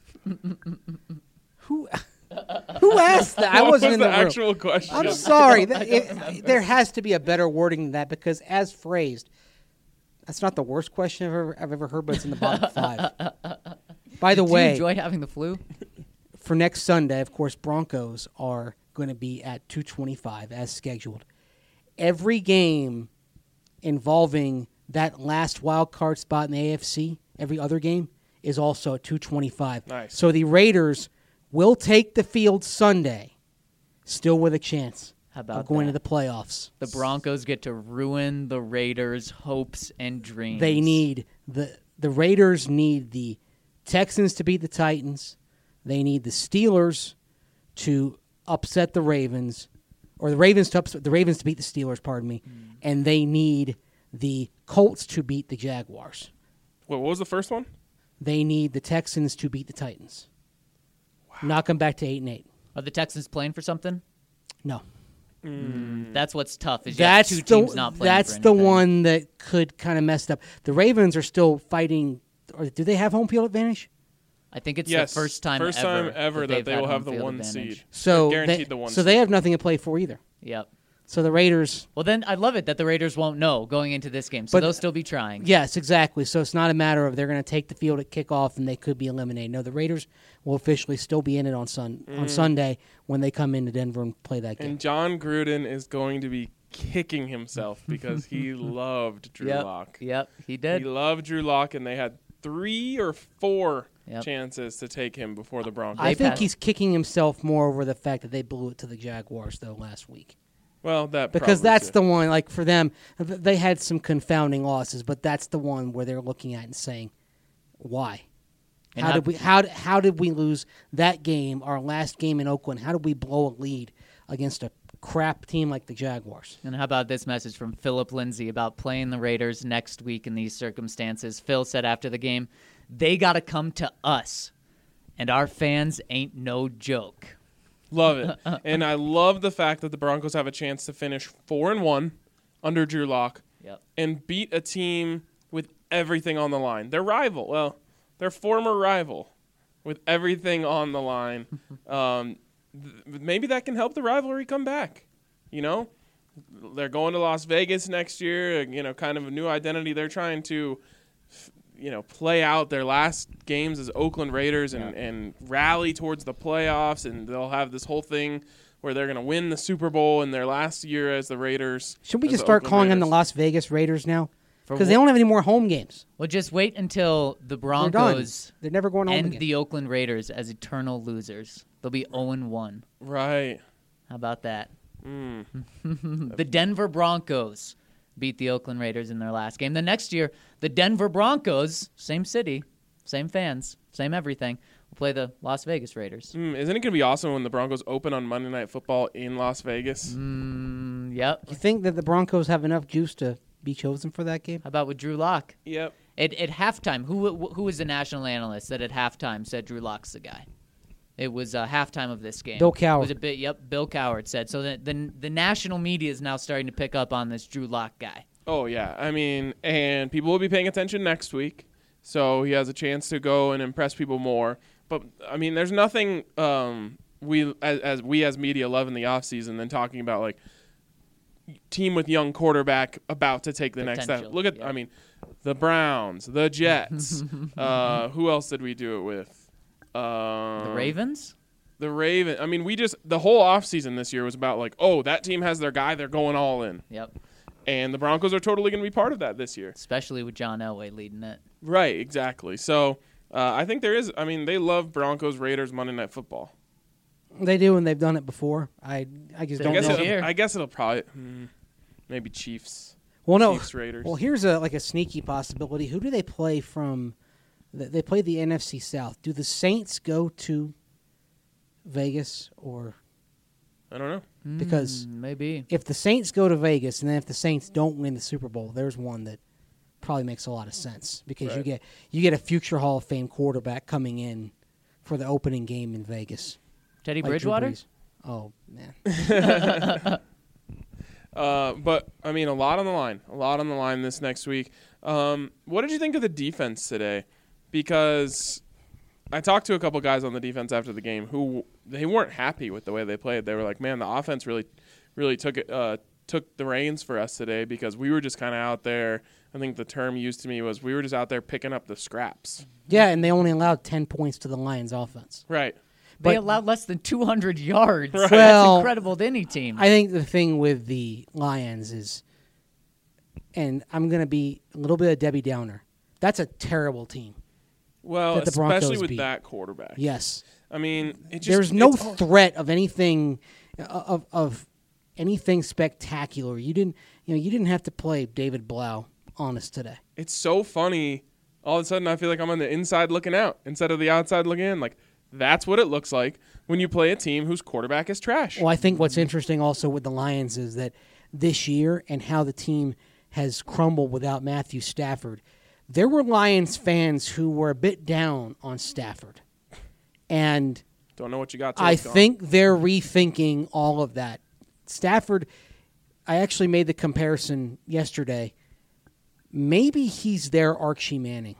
Who? Who asked that? I what wasn't was in the, the room. actual question. I'm sorry. That, it, there has to be a better wording than that because, as phrased, that's not the worst question I've ever, I've ever heard, but it's in the bottom five. By the Did way, you enjoy having the flu? For next Sunday, of course, Broncos are going to be at two twenty-five as scheduled. Every game involving that last wild card spot in the A F C, every other game, is also at two twenty-five. Nice. So the Raiders will take the field Sunday, still with a chance How about of going that? to the playoffs. The Broncos get to ruin the Raiders' hopes and dreams. They need the the Raiders need the Texans to beat the Titans. They need the Steelers to upset the Ravens, or the Ravens to ups- the Ravens to beat the Steelers. Pardon me, Mm. and they need the Colts to beat the Jaguars. What, what was the first one? They need the Texans to beat the Titans. Wow. Knock them back to eight and eight. Are the Texans playing for something? No. That's what's tough. Is you have That's two the teams not playing that's for the anything. one that could kind of mess it up. The Ravens are still fighting. Or do they have home field advantage? I think it's Yes, the first time first ever time ever that, they've they had will have home the field one advantage. seed. So They're guaranteed they, the one. so seed. they have nothing to play for either. Yep. So the Raiders. Well, then I love it that the Raiders won't know going into this game, so But- they'll still be trying. Yes, exactly. So it's not a matter of they're going to take the field at kickoff and they could be eliminated. No, the Raiders will officially still be in it on sun on Sunday when they come into Denver and play that game. And John Gruden is going to be kicking himself because he loved Drew Yep. Lock. Yep. He He did. loved Drew Lock, and they had three or four Yep. chances to take him before the Broncos. I They think passed. he's kicking himself more over the fact that they blew it to the Jaguars though last week. well, that Because probably that's too. the one, like for them, th- they had some confounding losses, but that's the one where they're looking at and saying, "Why? And how how- did we? How d- how did we lose that game? Our last game in Oakland. How did we blow a lead against a crap team like the Jaguars?" And how about this message from Philip Lindsay about playing the Raiders next week in these circumstances? Phil said after the game, they got to come to us, and our fans ain't no joke. Love it. And I love the fact that the Broncos have a chance to finish four and one under Drew Lock Yep. and beat a team with everything on the line. Their rival, well, their former rival, with everything on the line. um, th- maybe that can help the rivalry come back. You know, they're going to Las Vegas next year. You know, kind of a new identity. They're trying to, you know, play out their last games as Oakland Raiders and, and rally towards the playoffs, and they'll have this whole thing where they're going to win the Super Bowl in their last year as the Raiders. Should we as just the start Oakland calling them the Raiders. Las Vegas Raiders now? For Because wh- they don't have any more home games. Well, just wait until the They're done. Broncos They're never going home end again. the Oakland Raiders as eternal losers. They'll be oh and one. Right. How about that? Mm. The Denver Broncos beat the Oakland Raiders in their last game. The next year, the Denver Broncos, same city, same fans, same everything, will play the Las Vegas Raiders. Mm, isn't it going to be awesome when the Broncos open on Monday Night Football in Las Vegas? Mm, yep. You think that the Broncos have enough juice to be chosen for that game? How about with Drew Lock? Yep. At, at halftime, who who was the national analyst that at halftime said Drew Lock's the guy? It was uh, halftime of this game. Bill Cowher. It was a bit. Yep, Bill Cowher said. So the, the the national media is now starting to pick up on this Drew Lock guy. Oh, yeah. I mean, and people will be paying attention next week, so he has a chance to go and impress people more. But, I mean, there's nothing um, we as, as we as media love in the offseason than talking about, like, team with young quarterback about to take the next step. Potential, Look at, yeah. I mean, the Browns, the Jets. uh, who else did we do it with? Um, The Ravens? The Raven. I mean, we just the whole offseason this year was about like, oh, that team has their guy, they're going all in. Yep. And the Broncos are totally going to be part of that this year. Especially with John Elway leading it. Right, exactly. So uh, I think there is. I mean, they love Broncos Raiders Monday Night Football. They do, and they've done it before. I I just I don't guess, know. This year. it'll, I guess it'll probably hmm, maybe Chiefs. Well, no. Chiefs Raiders. Well, here's a like a sneaky possibility. Who do they play from? th- They play the N F C South. Do the Saints go to Vegas, or I don't know. because Mm, maybe. if the Saints go to Vegas, and then if the Saints don't win the Super Bowl, there's one that probably makes a lot of sense because you Right. get you get a future Hall of Fame quarterback coming in for the opening game in Vegas. Teddy like Drew Bridgewater? Brees. Oh man. Uh, but I mean, a lot on the line. A lot on the line this next week. Um, what did you think of the defense today? Because I talked to a couple guys on the defense after the game who they weren't happy with the way they played. They were like, "Man, the offense really, really took it, uh, took the reins for us today because we were just kind of out there." I think the term used to me was we were just out there picking up the scraps. Yeah, and they only allowed ten points to the Lions offense. Right. They But- allowed less than two hundred yards. Right. Well, That's incredible to any team. I think the thing with the Lions is, and I'm going to be a little bit of Debbie Downer, that's a terrible team. Well, That the especially Broncos with beat. that quarterback. Yes. I mean, it just There's no it's all- threat of anything of of anything spectacular. You didn't you know, you didn't have to play David Blau honest today. it's so funny. All of a sudden, I feel like I'm on the inside looking out instead of the outside looking in. Like That's what it looks like when you play a team whose quarterback is trash. Well, I think what's interesting also with the Lions is that this year and how the team has crumbled without Matthew Stafford, there were Lions fans who were a bit down on Stafford. And Don't know what you got till I it's gone. think they're rethinking all of that. Stafford, I actually made the comparison yesterday. Maybe he's their Archie Manning.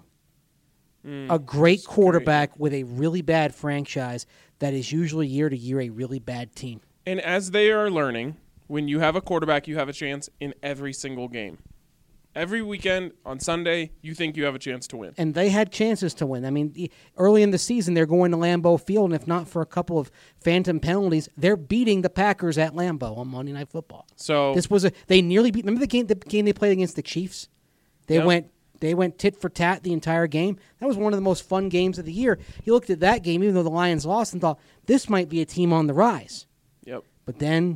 Mm, a great quarterback with a really bad franchise that is usually year to year a really bad team. And as they are learning, when you have a quarterback, you have a chance in every single game. Every weekend on Sunday, you think you have a chance to win. And they had chances to win. I mean, early in the season, they're going to Lambeau Field, and if not for a couple of phantom penalties, they're beating the Packers at Lambeau on Monday Night Football. So This was a they nearly beat. Remember the game the game they played against the Chiefs? They Yep. went they went tit for tat the entire game. That was one of the most fun games of the year. You looked at that game, even though the Lions lost, and thought this might be a team on the rise. Yep. But then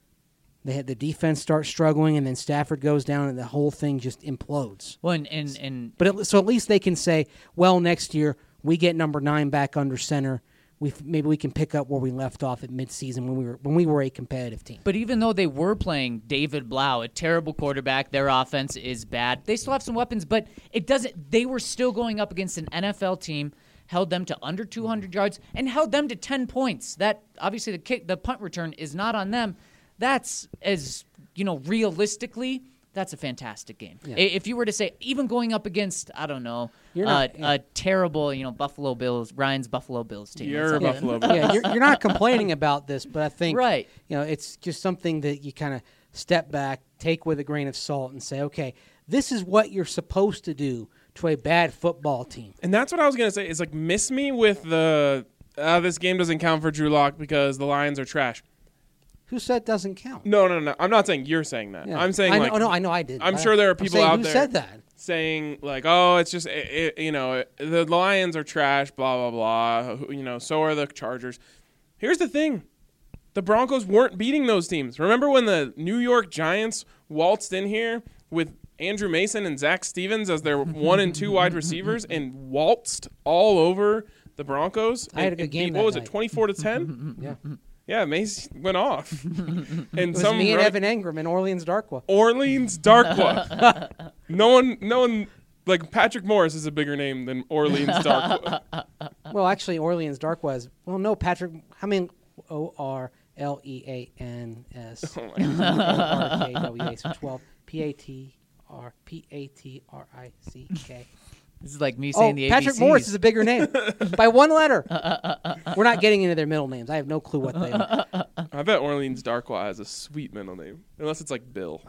they had the defense start struggling, and then Stafford goes down, and the whole thing just implodes. Well, and and, and But at, so at least they can say, well, next year we get number nine back under center. We maybe we can pick up where we left off at midseason when we were when we were a competitive team. But even though they were playing David Blau, a terrible quarterback, their offense is bad. They still have some weapons, but it doesn't. They were still going up against an N F L team, held them to under two hundred yards, and held them to ten points. That obviously the kick, the punt return is not on them. That's as you know, realistically, that's a fantastic game. Yeah. If you were to say, even going up against, I don't know, You're not- uh, yeah. a terrible, you know, Buffalo Bills, Ryan's Buffalo Bills team. You're a That's Buffalo something. Bills. Yeah, you're, you're not complaining about this, but I think Right. you know it's just something that you kind of step back, take with a grain of salt, and say, okay, this is what you're supposed to do to a bad football team. And that's what I was going to say is like miss me with the uh, this game doesn't count for Drew Lock because the Lions are trash. Who said doesn't count? No, no, no. I'm not saying you're saying that. Yeah. I'm saying I know, like oh, no, I know I did. I'm but sure there are I'm people saying out who there said that. saying like, oh, it's just it, it, you know the Lions are trash, blah blah blah. Who- You know, so are the Chargers. Here's the thing: the Broncos weren't beating those teams. Remember when the New York Giants waltzed in here with Andrew Mason and Zach Stevens as their one and two wide receivers and waltzed all over the Broncos? I had a and- good and game beat- that What was night. it, twenty-four to ten? Yeah, Yeah, Mace went off. and it was some me and run- Evan Engram and Orleans Darkwa. Orleans Darkwa. no one, no one, like Patrick Morris is a bigger name than Orleans Darkwa. Well, actually, Orleans Darkwa is well, no, Patrick. I mean, O R L E A N S Oh my God. R K W A. So twelve P A T R P A T R I C K. This is like me Oh, saying the Patrick A B Cs. Morris is a bigger name by one letter. We're not getting into their middle names. I have no clue what they are. I bet Orleans Darkwa has a sweet middle name, unless it's like Bill.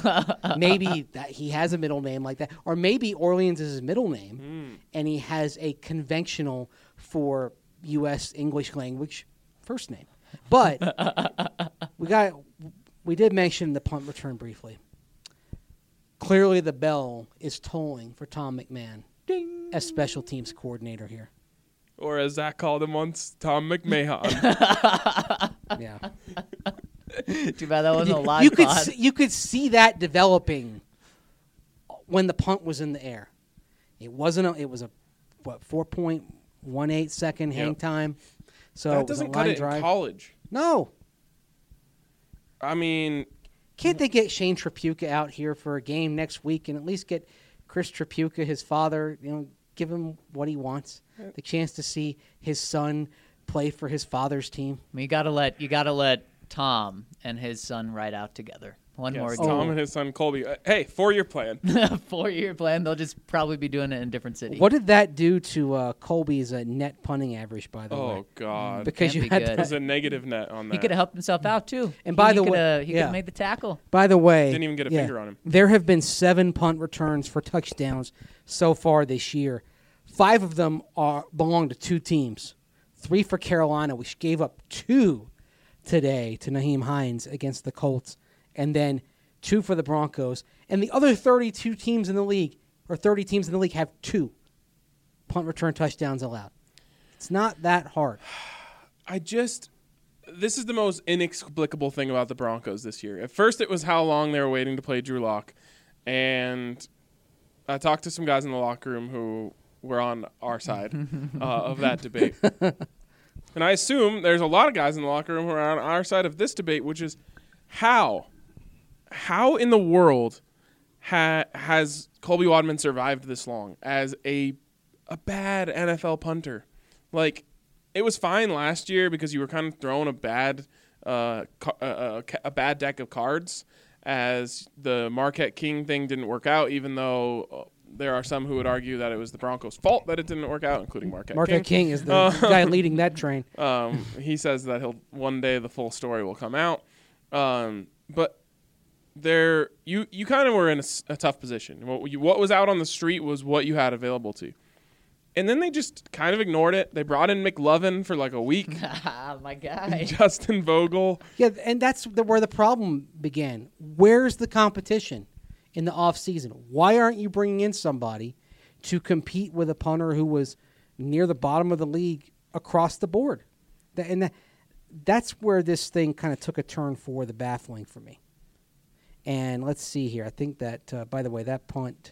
Maybe that he has a middle name like that, or maybe Orleans is his middle name, Mm. and he has a conventional for U S English language first name. But we got we did mention the punt return briefly. Clearly, the bell is tolling for Tom McMahon as special teams coordinator here. Or as Zach called him once, Tom McMahon. Yeah. Too bad that wasn't a live you could pod. see, you could see that developing when the punt was in the air. It wasn't. A, it was a what four point one eight second hang Yep. time. So that it was a doesn't cut line it drive. in college. No, I mean, can't they get Shane Trapuka out here for a game next week and at least get Chris Trapuka, his father, you know, give him what he wants, the chance to see his son play for his father's team. You gotta let you gotta let Tom and his son ride out together. One yes, more Tom game. and his son Colby. Uh, hey, four-year plan. Four-year plan. They'll just probably be doing it in a different city. What did that do to uh, Colby's uh, net punting average, by the way? Oh God, Because Can't you be had good. there's that. a negative net on that. He could have helped himself out too. And He- by he the way- coulda- he could yeah. have made the tackle. By the way, Didn't even get a yeah, finger on him. There have been seven punt returns for touchdowns so far this year. Five of them are belong to two teams. Three for Carolina, which gave up two today to Naheem Hines against the Colts, and then two for the Broncos. And the other thirty-two teams in the league, or thirty teams in the league, have two punt return touchdowns allowed. It's not that hard. I just this is the most inexplicable thing about the Broncos this year. At first, it was how long they were waiting to play Drew Lock, and I talked to some guys in the locker room who were on our side uh, of that debate. And I assume there's a lot of guys in the locker room who are on our side of this debate, which is how, how in the world ha- has Colby Wadman survived this long as a a bad N F L punter? Like, it was fine last year because you were kind of throwing a bad uh, ca- uh, a bad deck of cards, as the Marquette King thing didn't work out, even though there are some who would argue that it was the Broncos' fault that it didn't work out, including Marquette, Marquette King. King is the Uh, guy leading that train. Um, he says that he'll one day the full story will come out. Um, but there, you you kind of were in a, s- a tough position. What, you, what was out on the street was what you had available to you. And then they just kind of ignored it. They brought in McLovin for like a week. My guy. Justin Vogel. Yeah, and that's the, where the problem began. Where's the competition in the offseason? Why aren't you bringing in somebody to compete with a punter who was near the bottom of the league across the board? That, and that, that's where this thing kind of took a turn for the baffling for me. And let's see here. I think that, uh, by the way, that punt,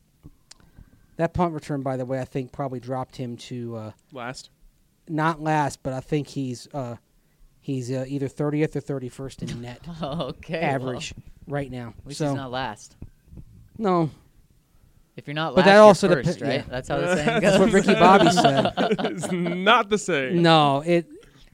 that punt return, by the way, I think probably dropped him to uh, Last. not last, but I think he's uh, he's uh, either thirtieth or thirty-first in net Okay. average right now. At least so he's not last. no, If you're not But last, that you're also first, depe- right? yeah. That's how the saying goes. that's what Ricky Bobby said. It's not the same. No, it.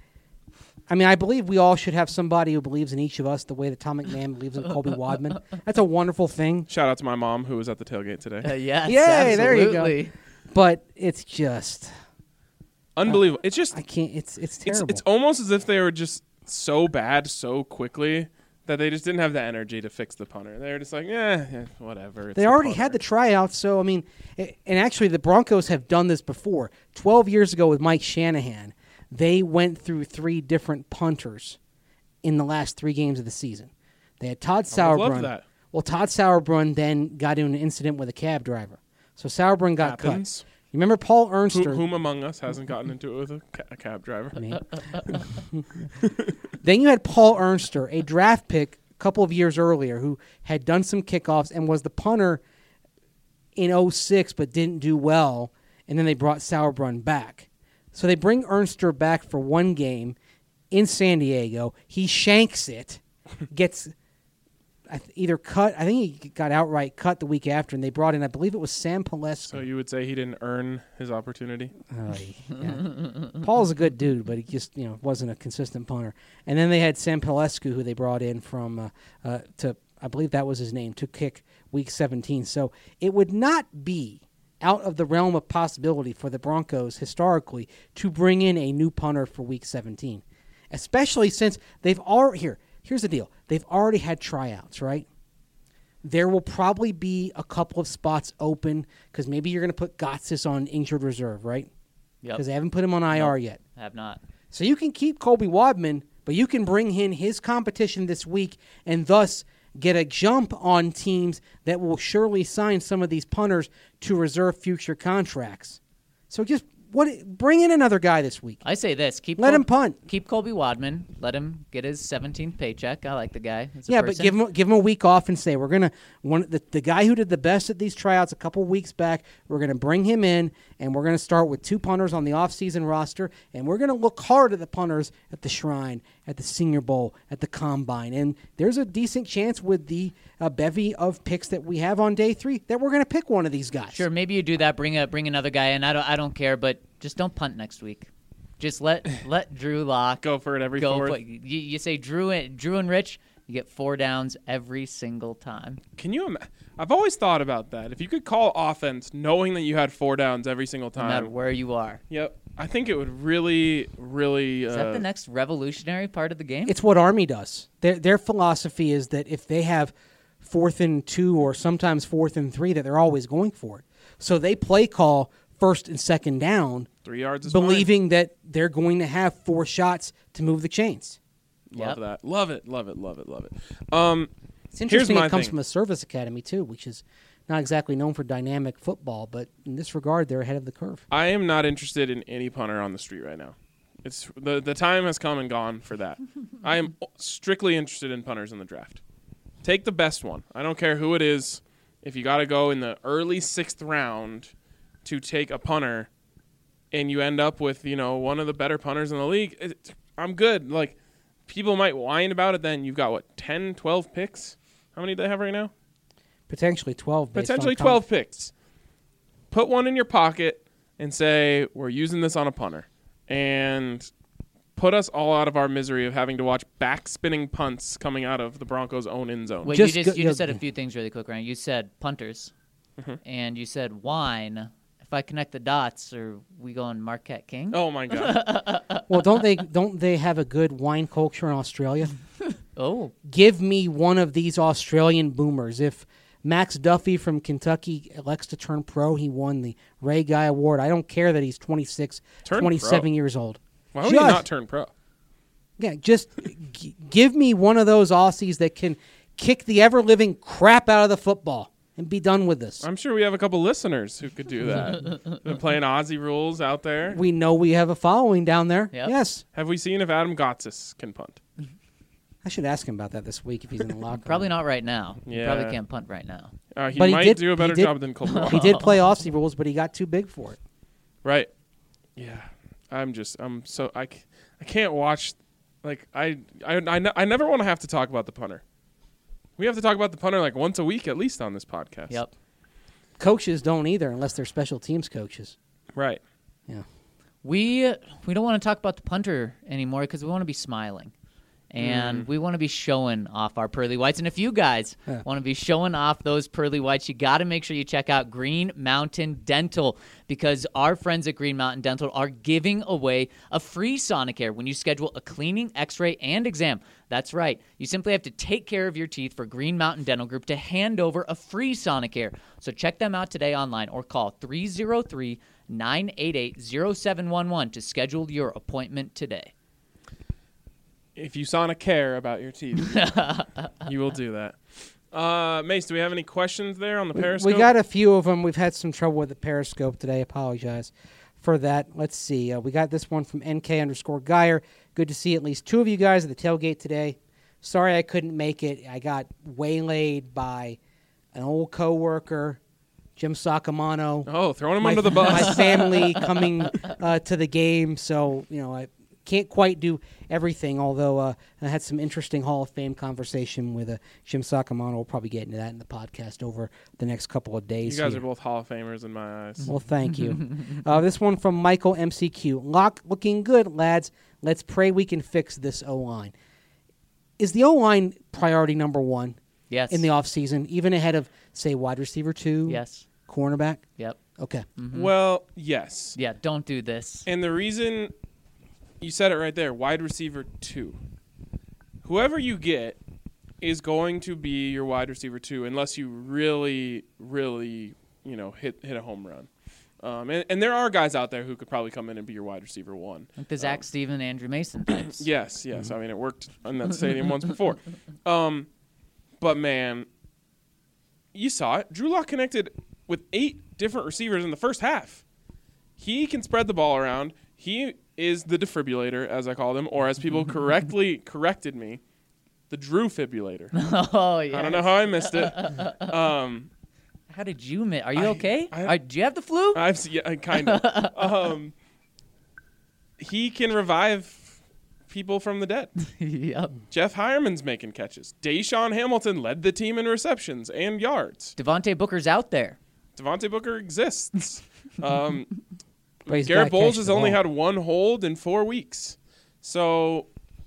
I mean, I believe we all should have somebody who believes in each of us the way that Tom McMahon believes in Colby Wadman. That's a wonderful thing. Shout out to my mom who was at the tailgate today. Uh, yes, Yay, there you go. absolutely. But it's just, Unbelievable. It's just I can't. It's it's it's terrible. it's almost as if they were just so bad so quickly that they just didn't have the energy to fix the punter. They were just like, yeah, yeah whatever. It's They the already punter. had the tryouts, so I mean, a- and actually the Broncos have done this before. Twelve years ago with Mike Shanahan, they went through three different punters in the last three games of the season. They had Todd I would love Sauerbrunn. that. Well, Todd Sauerbrunn then got into an incident with a cab driver, so Sauerbrunn got Happens. cut. You remember Paul Who, Ernster? whom among us hasn't gotten into it with a, ca- a cab driver? Me. Then you had Paul Ernster, a draft pick a couple of years earlier, who had done some kickoffs and was the punter in oh six but didn't do well, and then they brought Sauerbrunn back. So they bring Ernster back for one game in San Diego. He shanks it, gets I th- either cut. I think he got outright cut the week after, and they brought in, I believe it was Sam Palesco. So you would say he didn't earn his opportunity? Oh, yeah. Paul's a good dude, but he just you know wasn't a consistent punter. And then they had Sam Pelescu, who they brought in from uh, uh, to I believe that was his name, to kick week seventeen. So it would not be out of the realm of possibility for the Broncos historically to bring in a new punter for week seventeen, especially since they've already here. Here's the deal: they've already had tryouts, right? There will probably be a couple of spots open because maybe you're going to put Gotsis on injured reserve, right? Yep. Because they haven't put him on I R yet. Have not. So you can keep Colby Wadman, but you can bring in his competition this week and thus get a jump on teams that will surely sign some of these punters to reserve future contracts. So just what bring in another guy this week. I say this: keep Let Col- him punt. Keep Colby Wadman. Let him get his seventeenth paycheck. I like the guy. as a Yeah, but person. give him give him a week off and say we're gonna one the, the guy who did the best at these tryouts a couple weeks back. We're gonna bring him in and we're gonna start with two punters on the offseason roster, and we're gonna look hard at the punters at the Shrine, at the Senior Bowl, at the Combine, and there's a decent chance with the uh, bevy of picks that we have on day three that we're gonna pick one of these guys. Sure, maybe you do that. Bring a bring another guy in. I don't I don't care, but just don't punt next week. Just let let Drew Lock Go for it every go. fourth. For, you, you say Drew and Drew and Rich, you get four downs every single time. Can you? Im- I've always thought about that. If you could call offense knowing that you had four downs every single No matter time, where you are. yep, I think it would really, really. Is uh, that the next revolutionary part of the game? It's what Army does. Their their philosophy is that if they have fourth and two or sometimes fourth and three, that they're always going for it. So they play call first and second down, three yards is believing that they're going to have four shots to move the chains. fine. Love Yep. that. Love it. Love it. Love it. Love it. Um, It's interesting my it comes thing. from a service academy, too, which is not exactly known for dynamic football, but in this regard, they're ahead of the curve. I am not interested in any punter on the street right now. It's the the time has come and gone for that. I am strictly interested in punters in the draft. Take the best one. I don't care who it is. If you got to go in the early sixth round to take a punter, and you end up with, you know, one of the better punters in the league, it, I'm good. Like, people might whine about it then. You've got, what, ten, twelve picks? How many do they have right now? Potentially twelve. based Potentially on com- twelve picks. Put one in your pocket and say, we're using this on a punter. And put us all out of our misery of having to watch back-spinning punts coming out of the Broncos' own end zone. Wait, Just you just go- you just yeah. said a few things really quick, Ryan. You said punters, Mm-hmm. and you said wine. If I connect the dots, are we going Marquette King? Oh, my God. Well, don't they don't they have a good wine culture in Australia? Oh, Give me one of these Australian boomers. If Max Duffy from Kentucky elects to turn pro, he won the Ray Guy Award. I don't care that he's twenty-six, Turn twenty-seven pro? years old. Why would he Just- not turn pro? Yeah, just g- give me one of those Aussies that can kick the ever-living crap out of the football and be done with this. I'm sure we have a couple listeners who could do that. Been playing Aussie rules out there. We know we have a following down there. Yep. Yes. Have we seen if Adam Gotsis can punt? I should ask him about that this week if he's in the locker room. probably not right now. You Yeah. probably can't punt right now. Uh, he But he might did- do a he better did- job than Colby. He did play Aussie rules, but he got too big for it. Right. Yeah. I'm just, I'm so, I, c- I can't watch, like, I, I, I, ne- I never want to have to talk about the punter. We have to talk about the punter like once a week at least on this podcast. Yep. Coaches don't either unless they're special teams coaches. Right. Yeah. We we don't want to talk about the punter anymore because we want to be smiling. And we want to be showing off our pearly whites. And if you guys Yeah. want to be showing off those pearly whites, you got to make sure you check out Green Mountain Dental because our friends at Green Mountain Dental are giving away a free Sonicare when you schedule a cleaning, x-ray, and exam. That's right. You simply have to take care of your teeth for Green Mountain Dental Group to hand over a free Sonicare. So check them out today online or call three oh three, nine eight eight, oh seven one one to schedule your appointment today. If you sauna care about your teeth, you will do that. Uh, Mace, do we have any questions there on the We, Periscope? we got a few of them. We've had some trouble with the Periscope today. Apologize for that. Let's see. Uh, we got this one from N K underscore Geyer. Good to see at least two of you guys at the tailgate today. Sorry I couldn't make it. I got waylaid by an old coworker, Jim Sacamano. Oh, throwing him my, under the bus. my family coming uh, to the game, so you know I can't quite do everything. Although uh, I had some interesting Hall of Fame conversation with uh, Jim Sacamano. We'll probably get into that in the podcast over the next couple of You days. guys here. are both Hall of Famers in my eyes. Well, thank you. uh, this one from Michael M C Q. Lock looking good, lads. Let's pray we can fix this O line. Is the O line priority number one Yes. in the offseason, even ahead of say wide receiver two, Yes. cornerback? Yep. Okay. Well, yes. Yeah, don't do this. And the reason you said it right there, wide receiver two. Whoever you get is going to be your wide receiver two, unless you really, really, you know, hit hit a home run. Um, and, and there are guys out there who could probably come in and be your wide receiver one. Like the Zach Steven, Andrew Mason types. Yes, yes. I mean, it worked in that stadium once before. Um, but man, you saw it. Drew Lock connected with eight different receivers in the first half. He can spread the ball around. He is the defibrillator, as I called him, or as people correctly corrected me, the Drew fibrillator. Oh, yeah. I don't know how I missed it. Um, How did you miss? Are you I- okay? I- Are, do you have the flu? I've se- yeah, kind of. um, he can revive people from the dead. Yep. Jeff Hireman's making catches. Deshaun Hamilton led the team in receptions and yards. Devontae Booker's out there. Devontae Booker exists. Um, But he's Garrett gotta Bowles catch has the only ball. had one hold in four weeks. So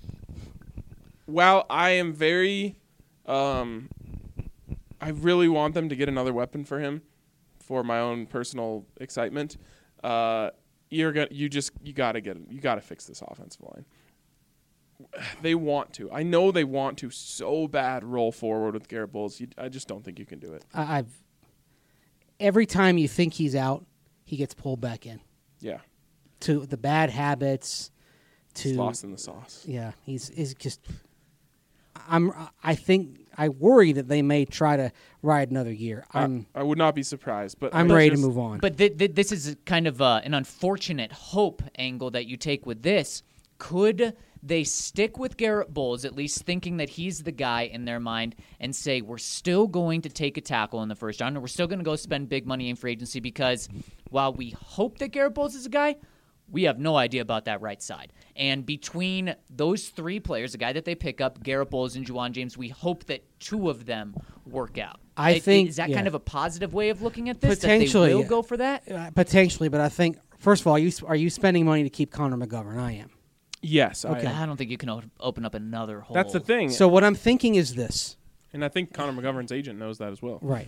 while I am very, um, I really want them to get another weapon for him for my own personal excitement. Uh, you're gonna, you just, you gotta get, you gotta fix this offensive line. They want to. I know they want to so bad roll forward with Garrett Bowles. You, I just don't think you can do it. I, I've every time you think he's out, he gets pulled back in Yeah, to the bad habits. To he's lost in the sauce. yeah, he's is just. I'm. I think I worry that they may try to ride another year. I'm. I, I would not be surprised, but I'm I ready just- to move on. But th- th- this is kind of uh, an unfortunate hope angle that you take with this. Could they stick with Garrett Bowles, at least thinking that he's the guy in their mind, and say, we're still going to take a tackle in the first round, and we're still going to go spend big money in free agency because while we hope that Garrett Bowles is a guy, We have no idea about that right side. And between those three players, the guy that they pick up, Garrett Bowles and Juwan James, we hope that two of them work out. I It- think- is that yeah. kind of a positive way of looking at this? Potentially, that they will yeah. go for that. Uh, potentially, but I think first of all, are you are you spending money to keep Connor McGovern? I am. Yes. Okay. I, I don't think you can o- open up another hole. that's the thing. So what I'm thinking is this. and I think Connor McGovern's agent knows that as well. Right.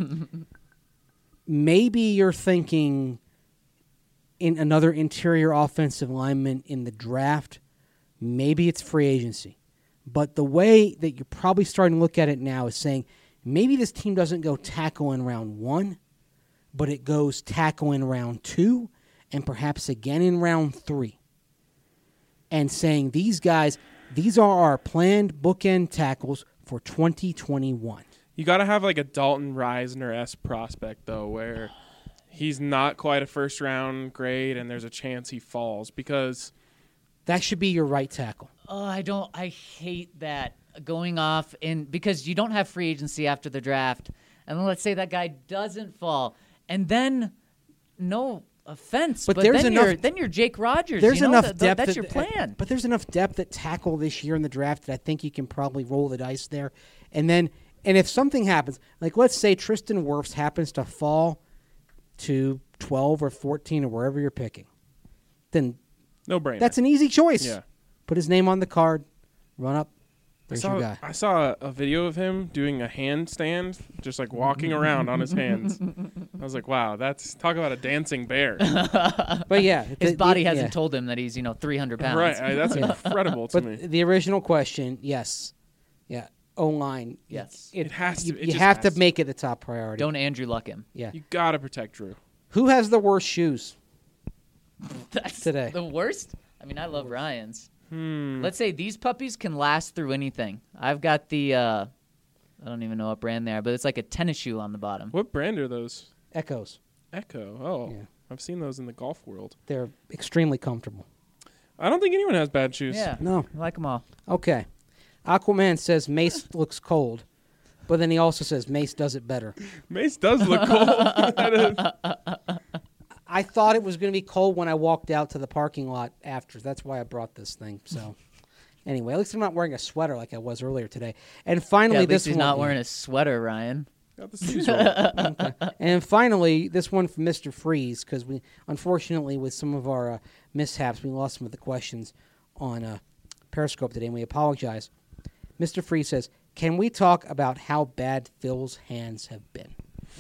Maybe you're thinking in another interior offensive lineman in the draft. Maybe it's free agency. But the way that you're probably starting to look at it now is saying maybe this team doesn't go tackle in round one, but it goes tackle in round two and perhaps again in round three. And saying these guys, these are our planned bookend tackles for twenty twenty-one. You got to have like a Dalton Reisner-esque prospect, though, where he's not quite a first-round grade and there's a chance he falls because That should be your right tackle. Oh, I don't. I hate that going off in because you don't have free agency after the draft, and then let's say that guy doesn't fall, and then no offense, But but, there's then enough- you're then you're Jake Rogers. There's you know? enough Th- th- depth. That's at- your plan. But there's enough depth at tackle this year in the draft that I think you can probably roll the dice there. And then, and if something happens, like let's say Tristan Wirfs happens to fall to twelve or fourteen or wherever you're picking, then no brainer. that's an easy choice. Yeah. Put his name on the card, run up. I There's saw, your guy. I saw a, a video of him doing a handstand, just like walking around on his hands. I was like, wow, that's talk about a dancing bear. But yeah, His the- body the- hasn't yeah. told him that he's you know three hundred pounds. Right, I, that's incredible to But me. the original question, yes, yeah, O line, Yes. it, It has to- You, it you just have to has to. make it the top priority. Don't Andrew Luck him. yeah. You gotta protect Drew. Who has the worst shoes? That's Today. the worst. I mean, I love Ryan's. Hmm. Let's say these puppies can last through anything. I've got the. Uh, I don't even know what brand they are, but it's like a tennis shoe on the bottom. What brand are those? Echoes. Echo. Oh, Yeah. I've seen those in the golf world. They're extremely comfortable. I don't think anyone has bad shoes. Yeah, No. I like them all. Okay. Aquaman says Mace looks cold, but then he also says Mace does it better. Mace does look cold. That is- I thought it was going to be cold when I walked out to the parking lot after. That's why I brought this thing. So, anyway, at least I'm not wearing a sweater like I was earlier today. And Yeah, finally, at least this he's one. not wearing a sweater, Ryan. Got the sleeves rolled. And finally, this one from Mister Freeze, because we, unfortunately, with some of our uh, mishaps, we lost some of the questions on uh, Periscope today, and we apologize. Mister Freeze says, "Can we talk about how bad Phil's hands have been?"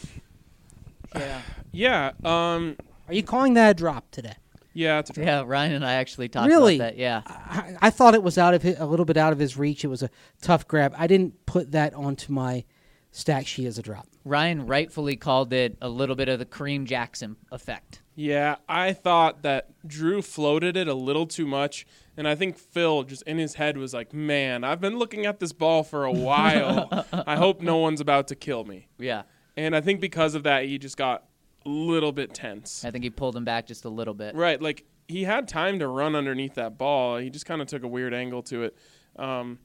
Yeah. Yeah. Um. Are you calling that a drop today? Yeah. It's a drop. Yeah, Ryan and I actually talked Really? about that. Yeah. I, I thought it was out of his, a little bit out of his reach. It was a tough grab. I didn't put that onto my stat sheet as a drop. Ryan rightfully called it a little bit of the Kareem Jackson effect. Yeah, I thought that Drew floated it a little too much, and I think Phil just in his head was like, "Man, I've been looking at this ball for a while. I hope no one's about to kill me." Yeah. And I think because of that, he just got a little bit tense. I think he pulled him back just a little bit. Right, like he had time to run underneath that ball. He just kind of took a weird angle to it. Um,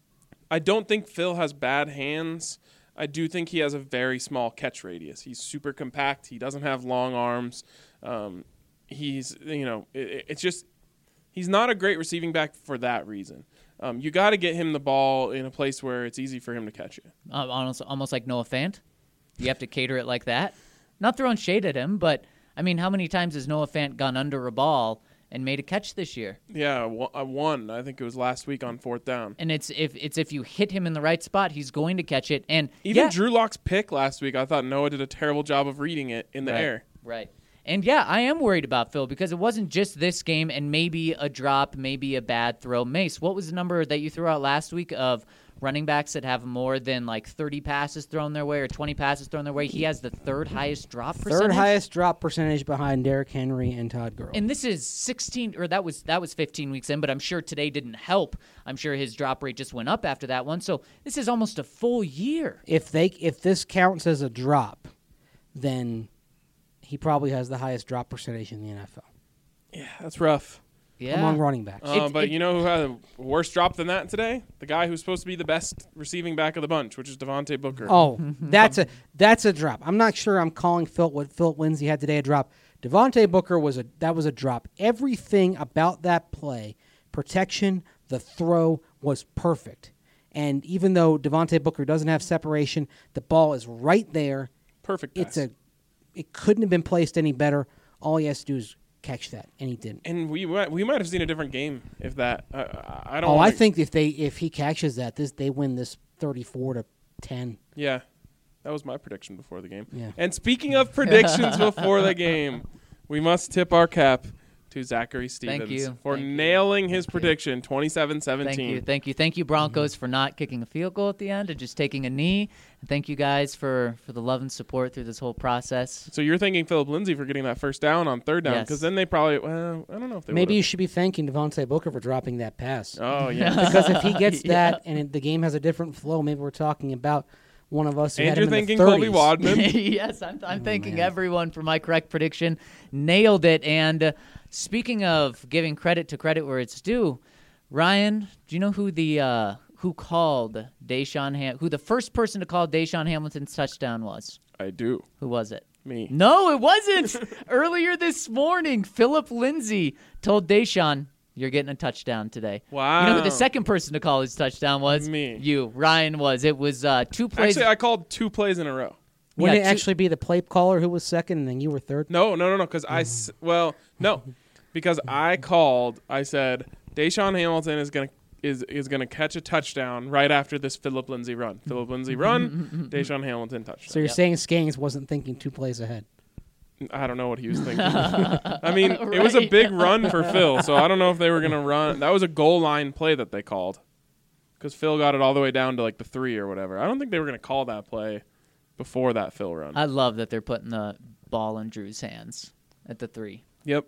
I don't think Phil has bad hands. I do think he has a very small catch radius. He's super compact. He doesn't have long arms. Um, he's, you know, it, it's just he's not a great receiving back for that reason. Um, you got to get him the ball in a place where it's easy for him to catch it. Um, almost, almost like Noah Fant. You have to cater it like that. Not throwing shade at him, but, I mean, how many times has Noah Fant gone under a ball and made a catch this year? Yeah, I won. I think it was last week on fourth down. And it's if it's if you hit him in the right spot, he's going to catch it. And Even yeah, Drew Lock's pick last week, I thought Noah did a terrible job of reading it in the right, air. Right. And yeah, I am worried about Phil because it wasn't just this game and maybe a drop, maybe a bad throw. Mace, what was the number that you threw out last week of running backs that have more than like thirty passes thrown their way or twenty passes thrown their way? He has the third highest drop percentage. Third highest drop percentage behind Derrick Henry and Todd Gurley. And this is sixteen, or that was that was fifteen weeks in, but I'm sure today didn't help. I'm sure his drop rate just went up after that one. So this is almost a full year. if they if this counts as a drop, then he probably has the highest drop percentage in the N F L Yeah, that's rough. Yeah. among running backs. Uh, It- but it- you know who had a worse drop than that today? The guy who's supposed to be the best receiving back of the bunch, which is Devontae Booker. Oh, that's a that's a drop. I'm not sure I'm calling Phil what Phil Lindsay had today a drop. Devontae Booker was a that was a drop. Everything about that play, protection, the throw was perfect. And even though Devontae Booker doesn't have separation, the ball is right there. Perfect pass. It's a it couldn't have been placed any better. All he has to do is catch that, and he didn't. And we might- we might have seen a different game if that. Uh, I don't. Oh, wanna, I think if they if he catches that, this they win this thirty-four to ten. Yeah, that was my prediction before the game. Yeah. And speaking of predictions before the game, we must tip our cap to Zachary Stevens you. for Thank you. nailing his Thank you. prediction, twenty-seven seventeen. Thank you, thank you, thank you, Broncos, for not kicking a field goal at the end and just taking a knee. And thank you guys for, for the love and support through this whole process. So you're thanking Philip Lindsay for getting that first down on third down, Yes. because then they probably. Well, I don't know if they. Maybe you would've. should be thanking Devontae Booker for dropping that pass. Oh yeah. Because if he gets Yeah. that and it, the game has a different flow, maybe we're talking about one of us who And had you're him in thanking the Colby thirties. Wadman. yes, I'm, I'm thanking man. everyone for my correct prediction. Nailed it. And uh, speaking of giving credit to credit where it's due, Ryan, do you know who the uh, who called Deshaun Ham- who the first person to call Deshaun Hamilton's touchdown was? I do. Who was it? Me. No, it wasn't. Earlier this morning, Philip Lindsay told Deshaun, "You're getting a touchdown today." Wow. You know who the second person to call his touchdown was? Me. You. Ryan was. It was uh, two plays. Actually, I called two plays in a row. Wouldn't Yeah, it two- actually be the play caller who was second and then you were third? No, no, no, no. Because I. s- Well, no, because I called. I said Deshaun Hamilton is gonna is is gonna catch a touchdown right after this Philip Lindsay run. Philip Lindsay run. Deshaun Hamilton touchdown. So you're saying Skangs wasn't thinking two plays ahead. I don't know what he was thinking. I mean, it was a Right. big run for Phil, so I don't know if they were going to run. That was a goal line play that they called because Phil got it all the way down to like the three or whatever. I don't think they were going to call that play before that Phil run. I love that they're putting the ball in Drew's hands at the three. Yep.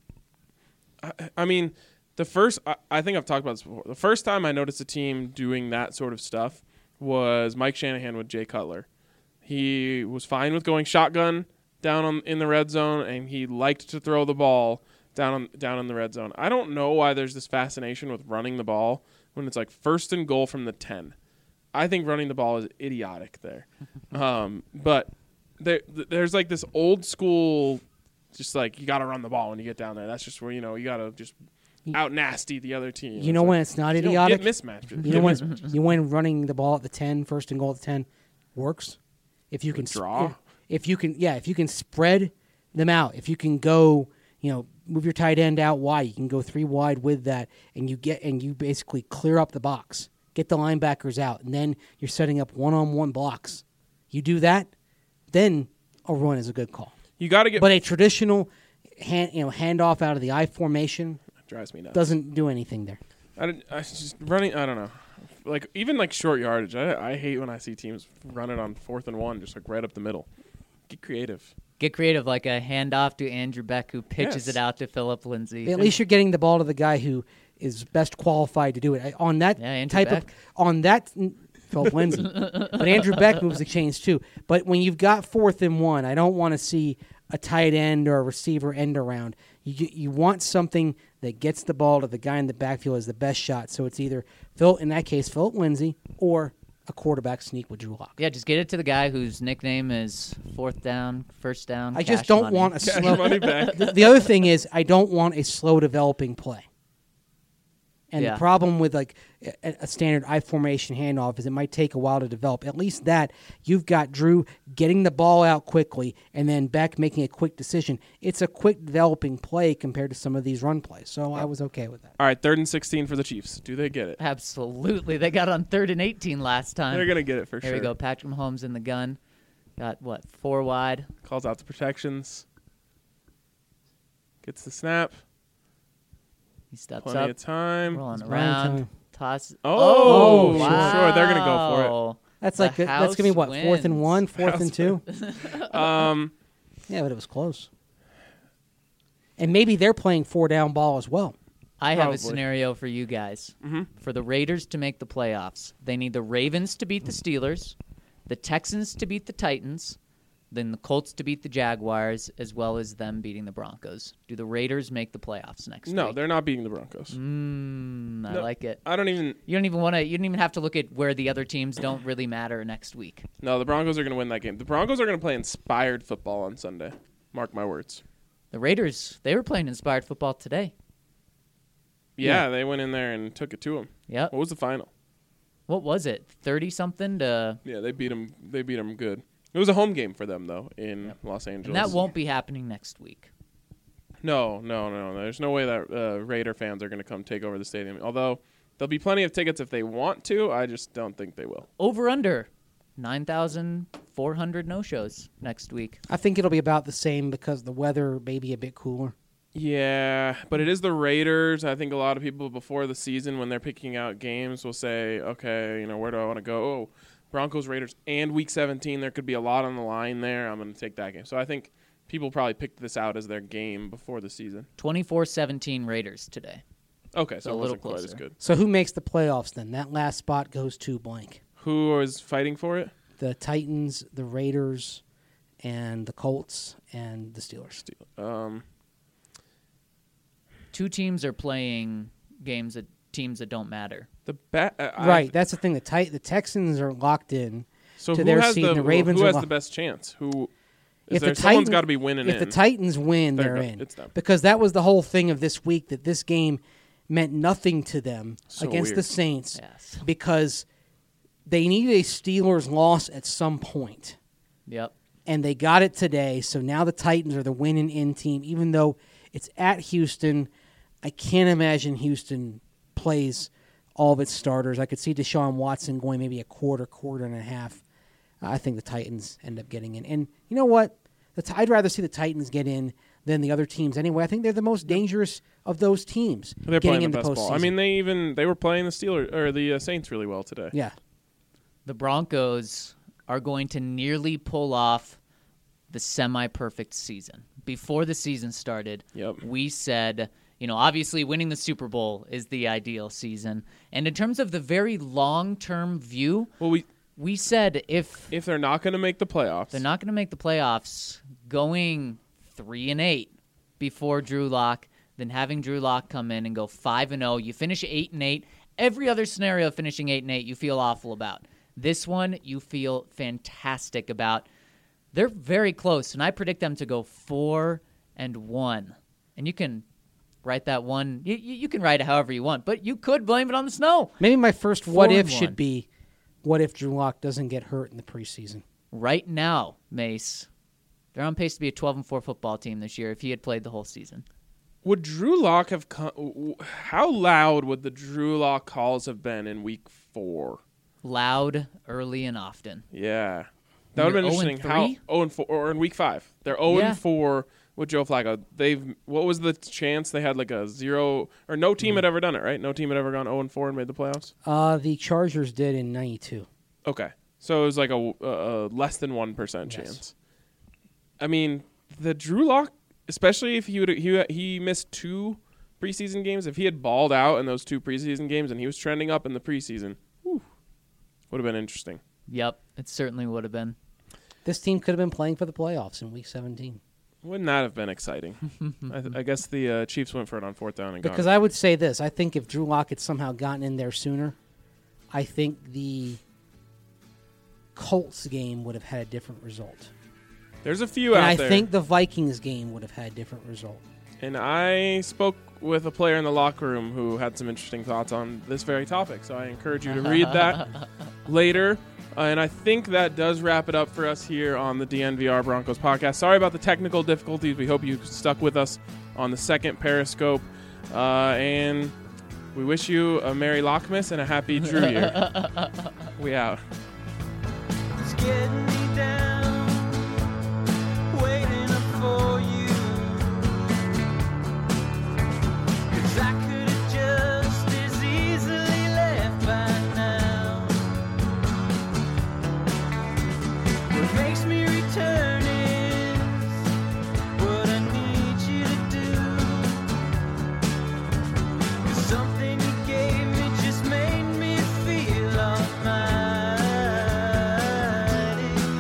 I, I mean, the first, I, I think I've talked about this before. The first time I noticed a team doing that sort of stuff was Mike Shanahan with Jay Cutler. He was fine with going shotgun down on, in the red zone, and he liked to throw the ball down on, down in the red zone. I don't know why there's this fascination with running the ball when it's like first and goal from the ten. I think running the ball is idiotic there. um, but there, there's like this old school, just like you got to run the ball when you get down there. That's just where, you know, you got to just out nasty the other team. You know when it's not you don't idiotic? get mismatches. You know when it's, you know when running the ball at the ten, first and goal at the ten, works? If you can Draw? If, if you can, yeah, if you can spread them out, if you can go, you know, move your tight end out wide, you can go three wide with that, and you get and you basically clear up the box, get the linebackers out, and then you're setting up one-on-one blocks. You do that, then a run is a good call. You got to get. But a traditional hand, you know, handoff out of the I formation drives me nuts. doesn't do anything there. I, don't- I just running. I don't know. Like even like short yardage. I I hate when I see teams run it on fourth and one, just like right up the middle. Get creative. Get creative, like a handoff to Andrew Beck, who pitches Yes. it out to Philip Lindsay. At least you're getting the ball to the guy who is best qualified to do it. I- On that Yeah, Andrew type Beck. of on that Philip Lindsay, but Andrew Beck moves the chains too. But when you've got fourth and one, I don't want to see a tight end or a receiver end around. You you want something that gets the ball to the guy in the backfield as the best shot. So it's either Phil, in that case, Philip Lindsay, or a quarterback sneak with Drew Lock. Yeah, just get it to the guy whose nickname is fourth down, first down. I just cash don't money. want a Cash slow. money back. the, the other thing is, I don't want a slow developing play. And Yeah. the problem with like a, a standard I formation handoff is it might take a while to develop. At least that you've got Drew getting the ball out quickly and then Beck making a quick decision. It's a quick developing play compared to some of these run plays. So I was okay with that. All right, third and sixteen for the Chiefs. Do they get it? Absolutely. They got on third and eighteen last time. They're gonna get it for Here sure. we go. Patrick Mahomes in the gun. Got, what, four wide? Calls out the protections. Gets the snap. He steps Plenty up, of time. rolling It's Ryan around, time. toss. Oh, sure, wow. sure, they're gonna go for it. That's The like that's gonna be house what fourth and wins. one, fourth House and two. Um, Yeah, but it was close. And maybe they're playing four down ball as well. I have Probably. a scenario for you guys. Mm-hmm. For the Raiders to make the playoffs, they need the Ravens to beat the Steelers, the Texans to beat the Titans, then the Colts to beat the Jaguars, as well as them beating the Broncos. Do the Raiders make the playoffs next no, week? they're not beating the Broncos. Mm, I No. like it. I don't even. You don't even want to. You don't even have to look at where the other teams don't really matter next week. No, the Broncos are gonna win that game. The Broncos are gonna play inspired football on Sunday. Mark my words. The Raiders, they were playing inspired football today. Yeah, Yeah. they went in there and took it to them. Yep. What was the final? What was it? thirty something to Yeah, they beat them. They beat them good. It was a home game for them though in Los Angeles. And that won't be happening next week. No, no, no, no. There's no way that uh, Raider fans are going to come take over the stadium. Although there'll be plenty of tickets if they want to. I just don't think they will. Over under nine thousand four hundred no-shows next week. I think it'll be about the same because the weather may be a bit cooler. Yeah, but it is the Raiders. I think a lot of people before the season, when they're picking out games, will say, okay, you know, where do I want to go? Oh, Broncos, Raiders, and Week seventeen. There could be a lot on the line there. I'm going to take that game. So I think people probably picked this out as their game before the season. twenty-four seventeen Raiders today. Okay, so A it little wasn't quite as closer. good. So who makes the playoffs then? That last spot goes to blank. Who is fighting for it? The Titans, the Raiders, and the Colts, and the Steelers. Um, Two teams are playing games that teams that don't matter. the ba- uh, I- Right, that's the thing. The tit- the Texans are locked in. So to who their has seed, the, and the Ravens who are has lo- the best chance? Who is If there? the Someone's Titan- got to be winning If in. the Titans win, They're they're go- in. it's them. Because that was the whole thing of this week, that this game meant nothing to them So against weird. the Saints Yes. because they needed a Steelers loss at some point. Yep. And they got it today, so now the Titans are the winning in team. Even though it's at Houston, I can't imagine Houston plays all of its starters. I could see Deshaun Watson going maybe a quarter, quarter and a half. I think the Titans end up getting in. And you know what? The t- I'd rather see the Titans get in than the other teams anyway. I think they're the most dangerous of those teams They're getting playing the into best ball. I postseason. mean, they even they were playing the Steelers or the uh, Saints really well today. yeah. The Broncos are going to nearly pull off the semi-perfect season. Before the season started, Yep. we said, you know, obviously winning the Super Bowl is the ideal season. And in terms of the very long-term view, Well, we we said if if they're not going to make the playoffs, they're not going to make the playoffs, going three and eight before Drew Lock, then having Drew Lock come in and go five and zero, you finish eight and eight. Every other scenario finishing eight and eight, you feel awful about. This one, you feel fantastic about. They're very close, and I predict them to go four and one. And you can write that one. You, you you can write it however you want, but you could blame it on the snow. Maybe my first Four what and if one. should be, what if Drew Lock doesn't get hurt in the preseason? Right now, Mace, they're on pace to be a twelve and four football team this year if he had played the whole season. would Drew Lock have come? How loud would the Drew Lock calls have been in Week Four? Loud, early, and often. Yeah, that would have been They're oh and interesting. How three? oh and four or in Week Five? They're zero Yeah. and four with Joe Flacco. They've what was the chance they had like a zero or no team had ever done it, right? No team had ever gone zero and four and made the playoffs. Uh, the Chargers did in ninety-two. Okay, so it was like a, a, a less than one percent Yes. chance. I mean, the Drew Lock, especially if he would he he missed two preseason games. If he had balled out in those two preseason games and he was trending up in the preseason, whew, would have been interesting. Yep, it certainly would have been. This team could have been playing for the playoffs in Week seventeen. Wouldn't that have been exciting? I, th- I guess the uh, Chiefs went for it on fourth down and got Because it. I would say this. I think if Drew Lock had somehow gotten in there sooner, I think the Colts game would have had a different result. There's a few And out I there. think the Vikings game would have had a different result. And I spoke with a player in the locker room who had some interesting thoughts on this very topic. So I encourage you to read that later. Uh, and I think that does wrap it up for us here on the D N V R Broncos podcast. Sorry about the technical difficulties. We hope you stuck with us on the second Periscope. Uh, and we wish you a Merry Lockmas and a Happy Drew Year. We out. It's getting me down, waiting up for you. 'Cause I could have just as easily left by now. What makes me return is what I need you to do. 'Cause something you gave me just made me feel almighty.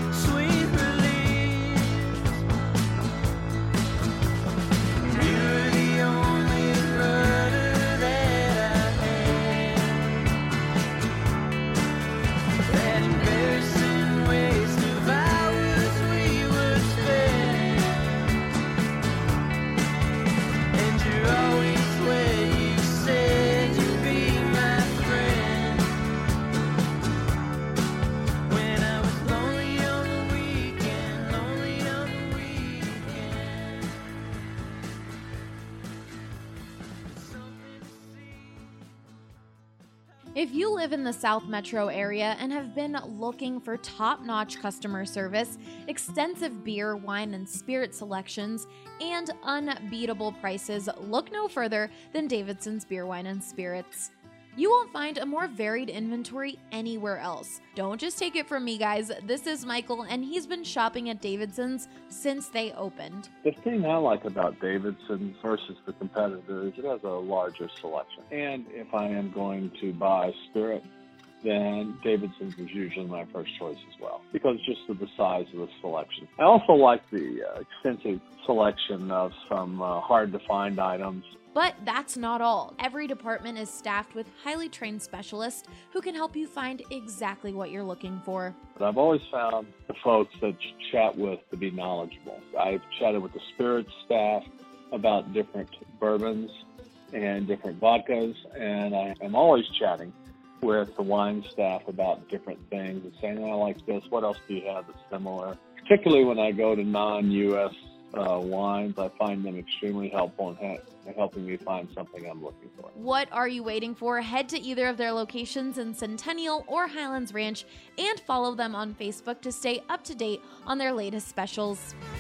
If you live in the South Metro area and have been looking for top-notch customer service, extensive beer, wine, and spirit selections, and unbeatable prices, look no further than Davidson's Beer, Wine, and Spirits. You won't find a more varied inventory anywhere else. Don't just take it from me, guys. This is Michael, and he's been shopping at Davidson's since they opened. The thing I like about Davidson's versus the competitor is it has a larger selection. And if I am going to buy spirit, then Davidson's is usually my first choice as well, because just of the size of the selection. I also like the uh, extensive selection of some uh, hard-to-find items. But that's not all. Every department is staffed with highly trained specialists who can help you find exactly what you're looking for. But I've always found the folks that you chat with to be knowledgeable. I've chatted with the spirits staff about different bourbons and different vodkas, and I am always chatting with the wine staff about different things and saying, oh, I like this, what else do you have that's similar? Particularly when I go to non-U S uh, wines, I find them extremely helpful in ha- helping me find something I'm looking for. What are you waiting for? Head to either of their locations in Centennial or Highlands Ranch and follow them on Facebook to stay up to date on their latest specials.